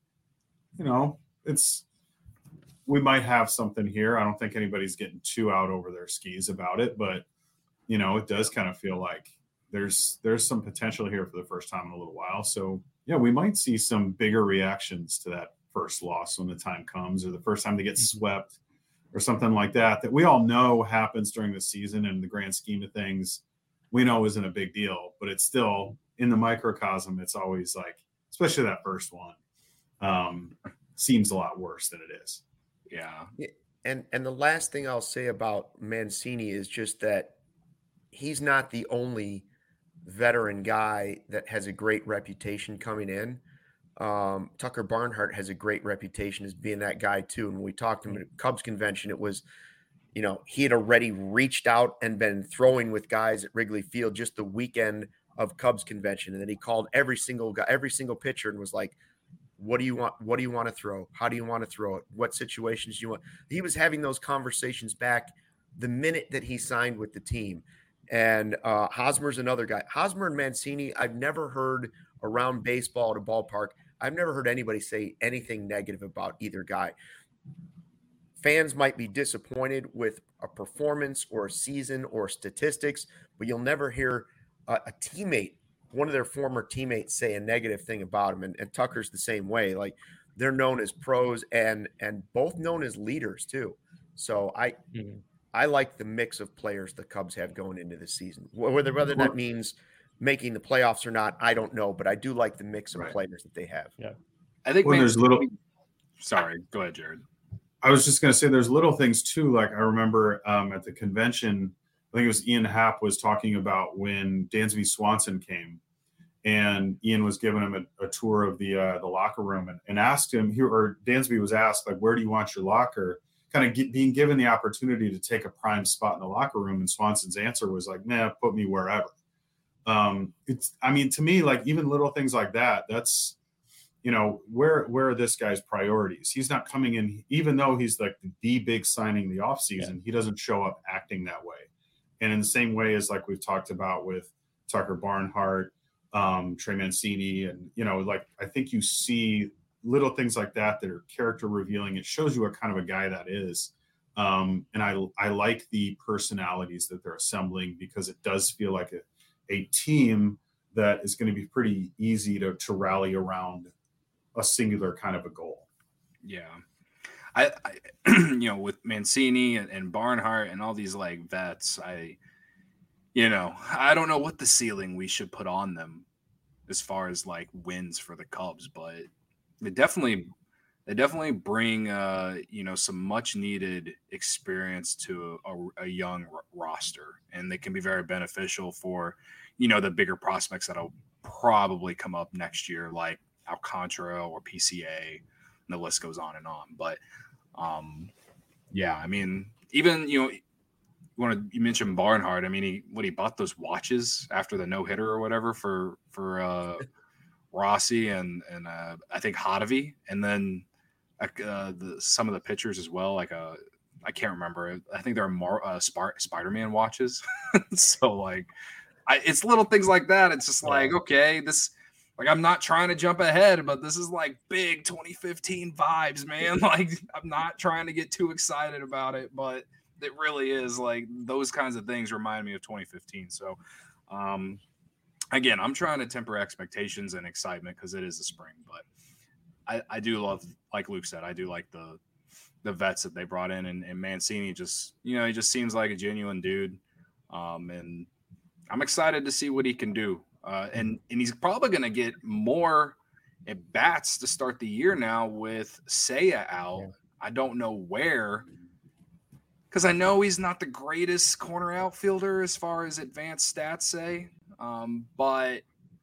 you know, it's we might have something here. I don't think anybody's getting too out over their skis about it, but you know, it does kind of feel like there's there's some potential here for the first time in a little while. So yeah, we might see some bigger reactions to that first loss when the time comes, or the first time they get swept or something like that, that we all know happens during the season and the grand scheme of things, we know isn't a big deal, but it's still in the microcosm. It's always like, especially that first one, um, seems a lot worse than it is. yeah. And and the last thing I'll say about Mancini is just that he's not the only veteran guy that has a great reputation coming in. Um, Tucker Barnhart has a great reputation as being that guy too. And when we talked to him at Cubs convention, it was, you know, he had already reached out and been throwing with guys at Wrigley Field just the weekend of Cubs convention. And then he called every single guy, every single pitcher and was like, what do you want? What do you want to throw? How do you want to throw it? What situations do you want? He was having those conversations back the minute that he signed with the team. And uh, Hosmer's another guy. Hosmer and Mancini, I've never heard around baseball at a ballpark, I've never heard anybody say anything negative about either guy. Fans might be disappointed with a performance or a season or statistics, but you'll never hear a, a teammate, one of their former teammates, say a negative thing about him. And, and Tucker's the same way. Like, they're known as pros and and both known as leaders too. So I Mhm. I like the mix of players the Cubs have going into this season. Whether whether that means making the playoffs or not, I don't know, but I do like the mix of Right. players that they have. I think Well, there's little. Sorry, go ahead, Jared. I was just going to say there's little things too. Like I remember um, at the convention, I think it was Ian Happ was talking about when Dansby Swanson came, and Ian was giving him a, a tour of the uh, the locker room and, and asked him, he, or Dansby was asked, like, where do you want your locker? Kind of get, being given the opportunity to take a prime spot in the locker room, and Swanson's answer was like, "Nah, put me wherever." Um, it's, I mean, to me, like even little things like that, that's, you know, where where are this guy's priorities? He's not coming in, even though he's like the big signing the offseason, yeah. He doesn't show up acting that way. And in the same way as like we've talked about with Tucker Barnhart, um, Trey Mancini, and, you know, like I think you see little things like that that are character revealing. It shows you what kind of a guy that is. Um, and I I like the personalities that they're assembling, because it does feel like a, a team that is going to be pretty easy to, to rally around a singular kind of a goal. Yeah. I, I you know, with Mancini and, and Barnhart and all these like vets, I, you know, I don't know what the ceiling we should put on them as far as like wins for the Cubs, but they definitely, they definitely bring, uh, you know, some much needed experience to a, a young r- roster, and they can be very beneficial for, you know, the bigger prospects that'll probably come up next year, like Alcantara or P C A, and the list goes on and on. But um, yeah, I mean, even, you know, you want to, you mentioned Barnhart. I mean, he, what he bought those watches after the no hitter or whatever for, for uh, Rossi and, and uh, I think Hottovy. And then uh, the, some of the pitchers as well. Like, uh, I can't remember. I think they're more uh, Sp- Spider-Man watches. So like, I, it's little things like that. It's just like, okay, this, like, I'm not trying to jump ahead, but this is like big twenty fifteen vibes, man. Like, I'm not trying to get too excited about it, but it really is like those kinds of things remind me of twenty fifteen. So, um, again, I'm trying to temper expectations and excitement because it is the spring, but I, I do love, like Luke said, I do like the, the vets that they brought in, and, and Mancini just, you know, he just seems like a genuine dude. Um, and I'm excited to see what he can do. Uh, and, and he's probably going to get more at bats to start the year now with Seiya out. Yeah. I don't know where, because I know he's not the greatest corner outfielder as far as advanced stats say. Um, but,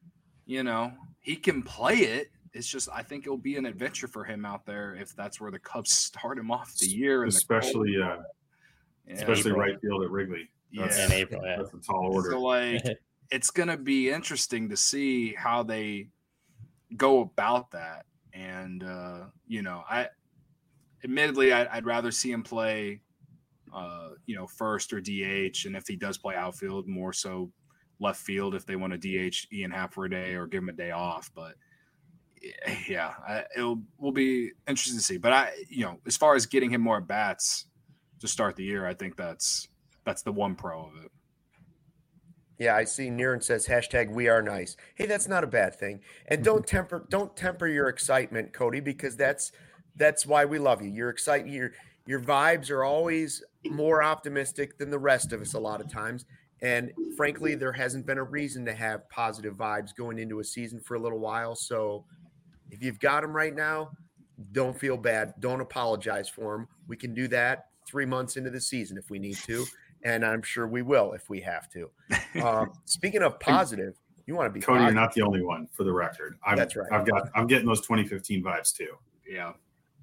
you know, he can play it. It's just, I think it'll be an adventure for him out there if that's where the Cubs start him off the year. Especially, the uh, yeah. especially right field at Wrigley. That's, yeah. In April, yeah. That's a tall order. So, like, it's going to be interesting to see how they go about that. And, uh, you know, I admittedly, I, I'd rather see him play, uh, you know, first or D H. And if he does play outfield, more so left field if they want to D H Ian Happ for a day or give him a day off. But yeah, I, it'll will be interesting to see. But I, you know, as far as getting him more bats to start the year, I think that's that's the one pro of it. Yeah, I see Niren says hashtag we are nice. Hey, that's not a bad thing. And don't temper don't temper your excitement, Cody, because that's that's why we love you. You're excited. Your your vibes are always more optimistic than the rest of us a lot of times. And frankly, there hasn't been a reason to have positive vibes going into a season for a little while. So if you've got them right now, don't feel bad. Don't apologize for them. We can do that three months into the season if we need to. And I'm sure we will if we have to. Um, speaking of positive, you want to be Cody, positive. You're not the only one, for the record. I'm, That's right. I've got. I'm getting those twenty fifteen vibes too. Yeah.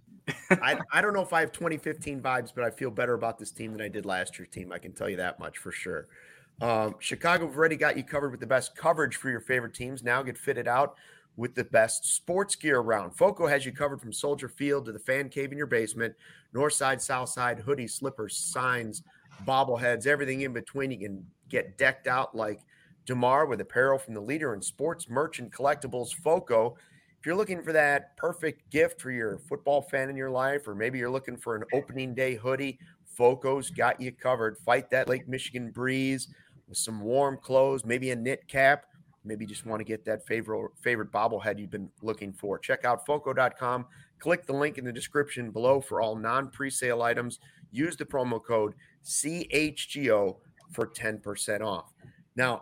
I I don't know if I have twenty fifteen vibes, but I feel better about this team than I did last year's team. I can tell you that much for sure. Um, Chicago have already got you covered with the best coverage for your favorite teams. Now get fitted out with the best sports gear around. Foco has you covered from Soldier Field to the fan cave in your basement, north side, south side, hoodies, slippers, signs, bobbleheads, everything in between. You can get decked out like DeMar with apparel from the leader in sports merch and collectibles, Foco. If you're looking for that perfect gift for your football fan in your life, or maybe you're looking for an opening day hoodie, Foco's got you covered. Fight that Lake Michigan breeze with some warm clothes, maybe a knit cap. Maybe you just want to get that favorite favorite bobblehead you've been looking for. Check out foco dot com. Click the link in the description below for all non-presale items. Use the promo code C H G O for ten percent off. Now,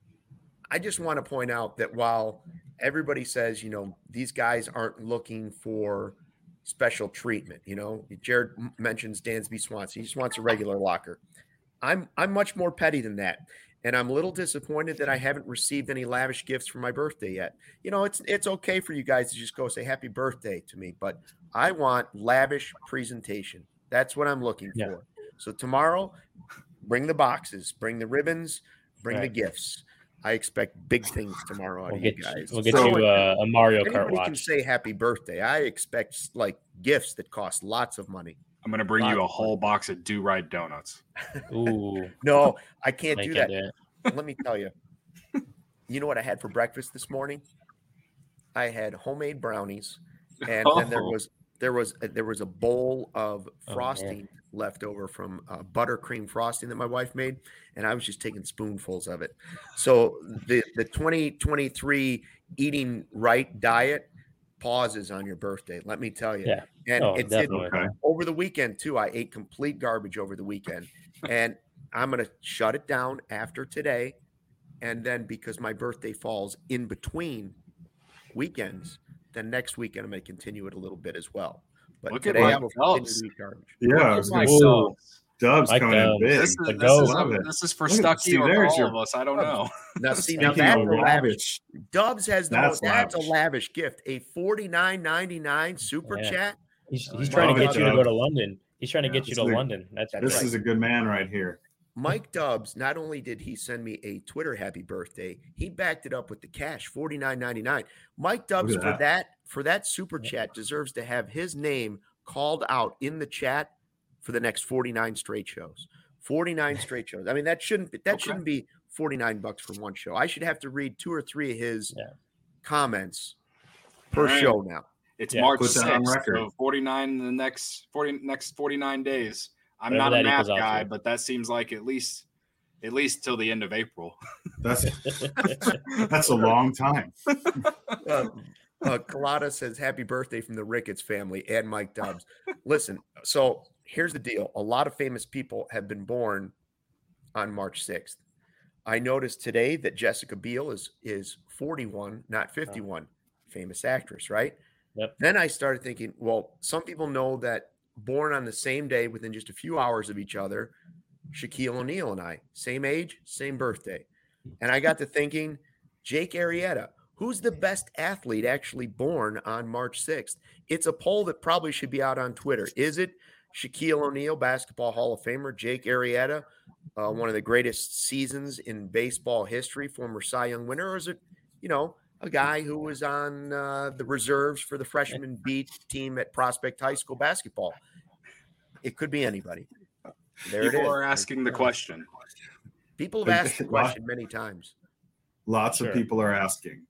I just want to point out that while everybody says, you know, these guys aren't looking for special treatment, you know, Jared mentions Dansby Swanson. He just wants a regular locker. I'm I'm much more petty than that. And I'm a little disappointed that I haven't received any lavish gifts for my birthday yet. You know, it's it's okay for you guys to just go say happy birthday to me, but I want lavish presentation. That's what I'm looking yeah. for. So tomorrow, bring the boxes, bring the ribbons, bring right. the gifts. I expect big things tomorrow out we'll of get you guys. You, we'll get so you uh, a Mario Kart anybody watch. Can say happy birthday. I expect like gifts that cost lots of money. I'm going to bring lots you a whole box of Do-Right donuts. Ooh. No, I can't I do can't that. do Let me tell you. You know what I had for breakfast this morning? I had homemade brownies, and oh. then there was there was a, there was a bowl of Oh, frosting man. left over from uh, buttercream frosting that my wife made, and I was just taking spoonfuls of it. So the the twenty twenty-three eating right diet pauses on your birthday. Let me tell you. Yeah. And Oh, it's it, definitely. Okay. over the weekend too. I ate complete garbage over the weekend, and I'm gonna shut it down after today. And then because my birthday falls in between weekends, then next weekend I'm going to continue it a little bit as well. But Look at today I Mike will continue Dubs. to eat garbage. Yeah, I Look was at gonna Mike say, Ooh. Dubs. Dubs Mike coming in Dubs. big. This is, The this, goat. is, Love it. this is for Look at- Stucky see, or for there's all your- of us. I don't know. Now, see, now Speaking that's of a lavish. lavish, Dubs has the That's most, that's a lavish. lavish gift. A forty-nine ninety-nine super Yeah. chat. He's, Oh, he's yeah. trying Love to it, get you to go Dubs. to London. He's trying to Yeah, get you this to is a- London. That's That's this right. is a good man right here. Mike Dubs, not only did he send me a Twitter happy birthday, he backed it up with the cash, forty-nine ninety-nine. Mike Dubs Look for at that. that. for that super chat deserves to have his name called out in the chat for the next forty-nine straight shows. forty-nine straight shows. I mean, that shouldn't be, that Okay. shouldn't be forty-nine bucks for one show. I should have to read two or three of his Yeah. comments per Right. show now. It's Yeah, March put that on sixth, record. so forty-nine in the next forty next forty-nine days. I'm Whatever not a that math equals out guy, to. but that seems like at least at least till the end of April. That's that's a long time. Uh, uh, Colada says, happy birthday from the Ricketts family and Mike Dubs. Listen, so here's the deal. A lot of famous people have been born on March sixth. I noticed today that Jessica Biel is is forty-one, not fifty-one. Famous actress, right? Yep. Then I started thinking, well, some people know that born on the same day within just a few hours of each other, Shaquille O'Neal and I, same age, same birthday. And I got to thinking, Jake Arrieta, who's the best athlete actually born on March sixth? It's a poll that probably should be out on Twitter. Is it Shaquille O'Neal, Basketball Hall of Famer, Jake Arrieta, uh, one of the greatest seasons in baseball history, former Cy Young winner, or is it, you know, a guy who was on uh, the reserves for the freshman B team at Prospect High School basketball? It could be anybody. There it People is. are asking the question. People have asked the question many times. Lots Sure. of people are asking.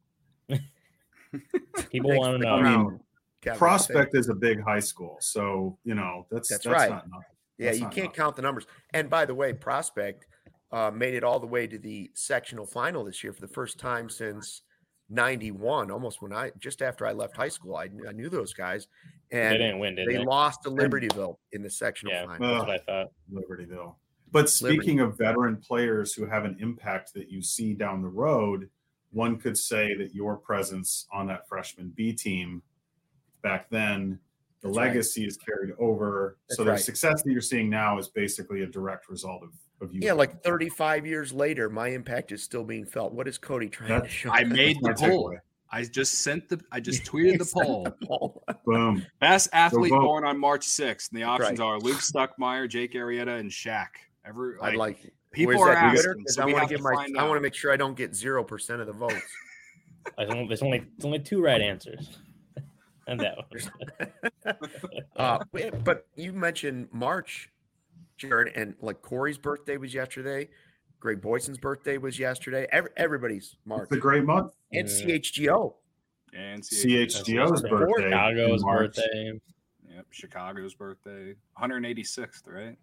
People Thanks want for to the know. I mean, crown, Kevin. Prospect is a big high school, so you know that's That's that's, right. not nothing. Yeah, That's you not can't nothing. count the numbers. And by the way, Prospect uh, made it all the way to the sectional final this year for the first time since ninety-one, almost when I just after I left high school. I, I knew those guys, They and didn't win, did they they? lost to Libertyville in the sectional Yeah. final. That's what I thought. Libertyville. But speaking of veteran players who have an impact that you see down the road, one could say that your presence on that freshman B team back then, the That's right. legacy is carried over. That's so the right. success that you're seeing now is basically a direct result of, of you. Yeah, like thirty-five years later, my impact is still being felt. What is Cody trying to That's- show? I made the my poll. takeaway. I just sent the I just tweeted the poll. poll. Boom. Best athlete vote. born on March sixth. And the options Right. are Luke Stuckmeyer, Jake Arrieta, and Shaq. Every I'd like, like. people where's are that Twitter? asking. 'Cause So I we want have to to get my. find I want to out. make sure I don't get zero percent of the votes. There's only, there's only, there's only two right answers. And that one. Uh, but- but you mentioned March, Jared, and like Corey's birthday was yesterday. Greg Boyson's birthday was yesterday. Every, everybody's March. It's a great month. And Yeah. C H G O. And C H G O's That's birthday. Chicago's in March. birthday. Yep, Chicago's birthday. one hundred eighty-sixth, right?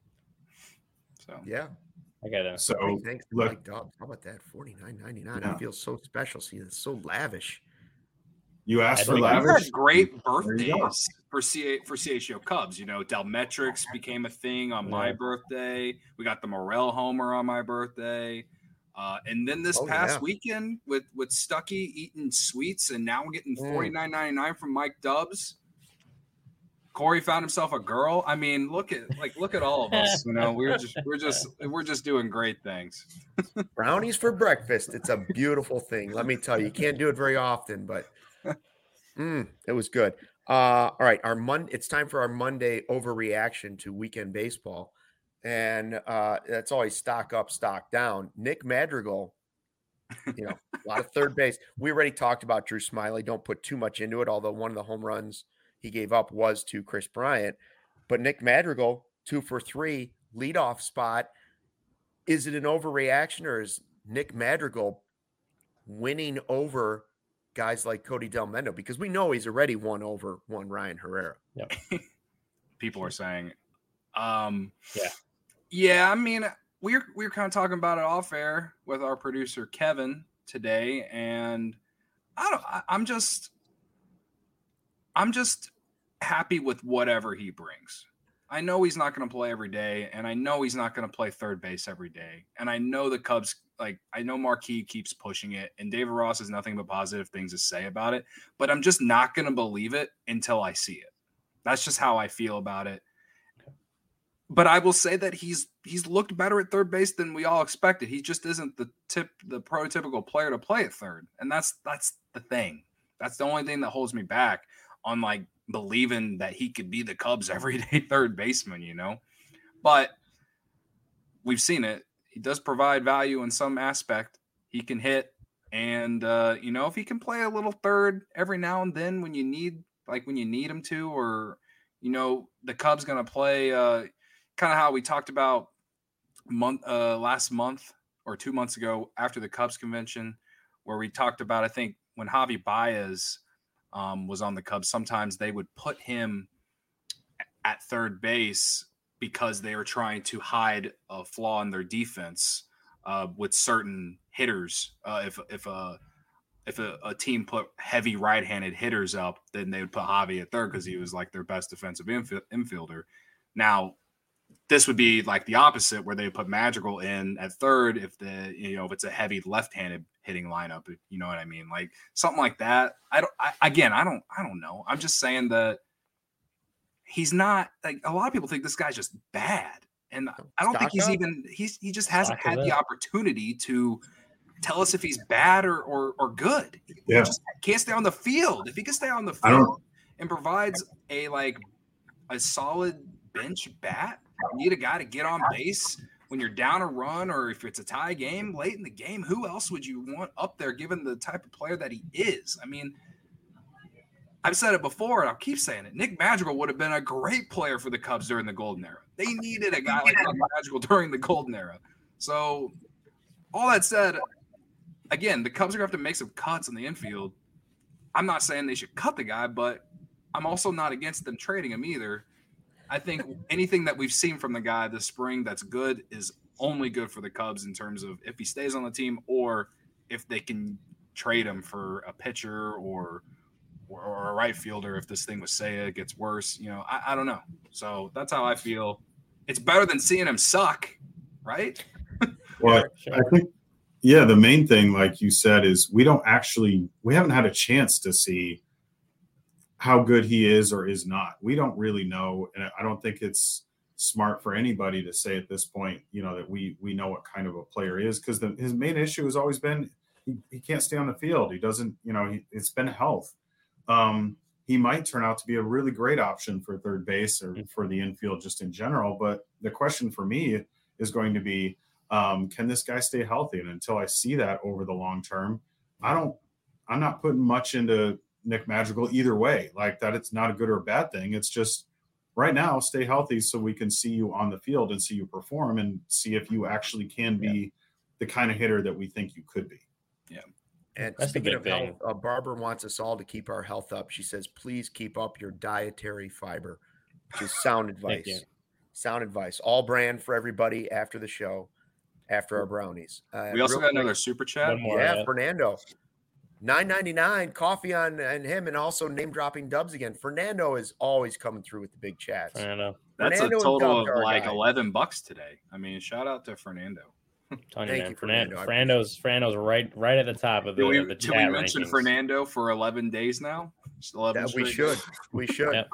So Yeah. I got to. So Hey, thanks to look, Mike Dobbs. How about that? forty-nine ninety-nine. Yeah. It feels so special. See, it's so lavish. you asked I for think We've lavish. had great There you go. birthdays for C for C H G O Cubs. You know, Delmetrics became a thing on my Yeah. birthday. We got the Morel homer on my birthday. Uh, and then this Oh, past yeah. weekend with with Stucky eating sweets, and now we're getting Mm. forty-nine ninety-nine from Mike Dubs. Corey found himself a girl. I mean, look at like look at all of us. You know, we're just we're just we're just doing great things. Brownies for breakfast. It's a beautiful thing. Let me tell you. You can't do it very often, but mm, it was good. Uh, all right. Our Mon- It's time for our Monday overreaction to weekend baseball. And uh, that's always stock up, stock down. Nick Madrigal, you know, a lot of third base. We already talked about Drew Smiley. Don't put too much into it, although one of the home runs he gave up was to Chris Bryant. But Nick Madrigal, two for three, leadoff spot. Is it an overreaction, or is Nick Madrigal winning over guys like Cody Delmendo, because we know he's already won over one Ryan Herrera. Yep. People are saying, um, yeah, yeah. I mean, we're we're kind of talking about it off air with our producer Kevin today, and I don't. I, I'm just, I'm just happy with whatever he brings. I know he's not going to play every day, and I know he's not going to play third base every day, and I know the Cubs. Like, I know Marquee keeps pushing it, and David Ross has nothing but positive things to say about it, but I'm just not going to believe it until I see it. That's just how I feel about it. But I will say that he's he's looked better at third base than we all expected. He just isn't the tip, the prototypical player to play at third, and that's that's the thing. That's the only thing that holds me back on like believing that he could be the Cubs' everyday third baseman, you know. But we've seen it. He does provide value in some aspect. He can hit, and uh, you know, if he can play a little third every now and then when you need, like when you need him to, or you know, the Cubs gonna play uh, kind of how we talked about month uh, last month or two months ago after the Cubs convention, where we talked about, I think when Javi Baez um, was on the Cubs, sometimes they would put him at third base because they were trying to hide a flaw in their defense uh, with certain hitters. Uh, if if a if a, a team put heavy right-handed hitters up, then they would put Javi at third because he was like their best defensive inf- infielder. Now, this would be like the opposite, where they put Madrigal in at third if the you know if it's a heavy left-handed hitting lineup. You know what I mean? Like something like that. I don't. I, again, I don't. I don't know. I'm just saying that. He's not like a lot of people think this guy's just bad. And I don't Stock think he's up. even he's he just hasn't Stock had it the up. opportunity to tell us if he's bad or or, or good. He Yeah. just can't stay on the field. If he can stay on the I don't- field and provides a like a solid bench bat, you need a guy to get on base when you're down a run, or if it's a tie game late in the game, who else would you want up there given the type of player that he is? I mean, I've said it before, and I'll keep saying it. Nick Madrigal would have been a great player for the Cubs during the golden era. They needed a guy like Nick Madrigal during the golden era. So, all that said, again, the Cubs are going to have to make some cuts in the infield. I'm not saying they should cut the guy, but I'm also not against them trading him either. I think anything that we've seen from the guy this spring that's good is only good for the Cubs in terms of if he stays on the team or if they can trade him for a pitcher or – or a right fielder if this thing with Seiya gets worse. You know, I, I don't know. So that's how I feel. It's better than seeing him suck, right? Well, Sure. I think, yeah, the main thing, like you said, is we don't actually, we haven't had a chance to see how good he is or is not. We don't really know. And I don't think it's smart for anybody to say at this point, you know, that we, we know what kind of a player he is, because his main issue has always been he, he can't stay on the field. He doesn't, you know, he, it's been health. Um, he might turn out to be a really great option for third base or for the infield just in general. But the question for me is going to be, um, can this guy stay healthy? And until I see that over the long term, I don't, I'm not putting much into Nick Madrigal either way. Like that, it's not a good or a bad thing. It's just right now, stay healthy so we can see you on the field and see you perform and see if you actually can be yeah. the kind of hitter that we think you could be. Yeah. And That's speaking of thing. health, uh, Barbara wants us all to keep our health up. She says, please keep up your dietary fiber, which is sound advice. Sound advice. All brand for everybody after the show, after our brownies. Uh, we also got quick, another super chat. One more, yeah, yeah. Fernando. nine ninety-nine coffee on and him, and also name dropping Dubs again. Fernando is always coming through with the big chats. Fernando. That's Fernando a total of are like guys. eleven bucks today. I mean, shout out to Fernando. Tony, Thank man. you, Fernando. Fernando. I Fernando's Fernando's right right at the top of the, Did we, of the did chat we mention rankings. Fernando for eleven days now? Just eleven That we straight should. days? We should. Yep.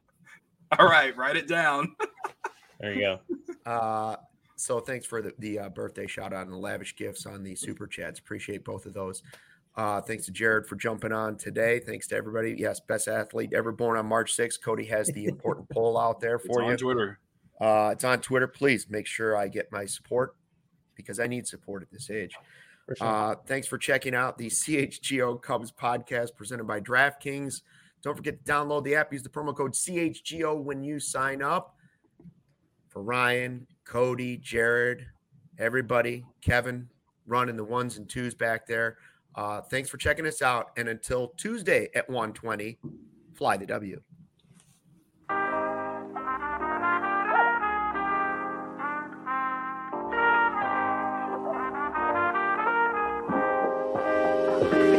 All right, write it down. There you go. Uh, so thanks for the, the uh, birthday shout out and the lavish gifts on the super chats. Appreciate both of those. Uh, thanks to Jared for jumping on today. Thanks to everybody. Yes, best athlete ever born on March sixth. Cody has the important poll out there for It's you. on Twitter. Uh, it's on Twitter. Please make sure I get my support because I need support at this age. For sure. Uh, thanks for checking out the C H G O Cubs podcast presented by DraftKings. Don't forget to download the app. Use the promo code C H G O when you sign up. For Ryan, Cody, Jared, everybody, Kevin, running the ones and twos back there. Uh, thanks for checking us out. And until Tuesday at one twenty, fly the W. Thank you.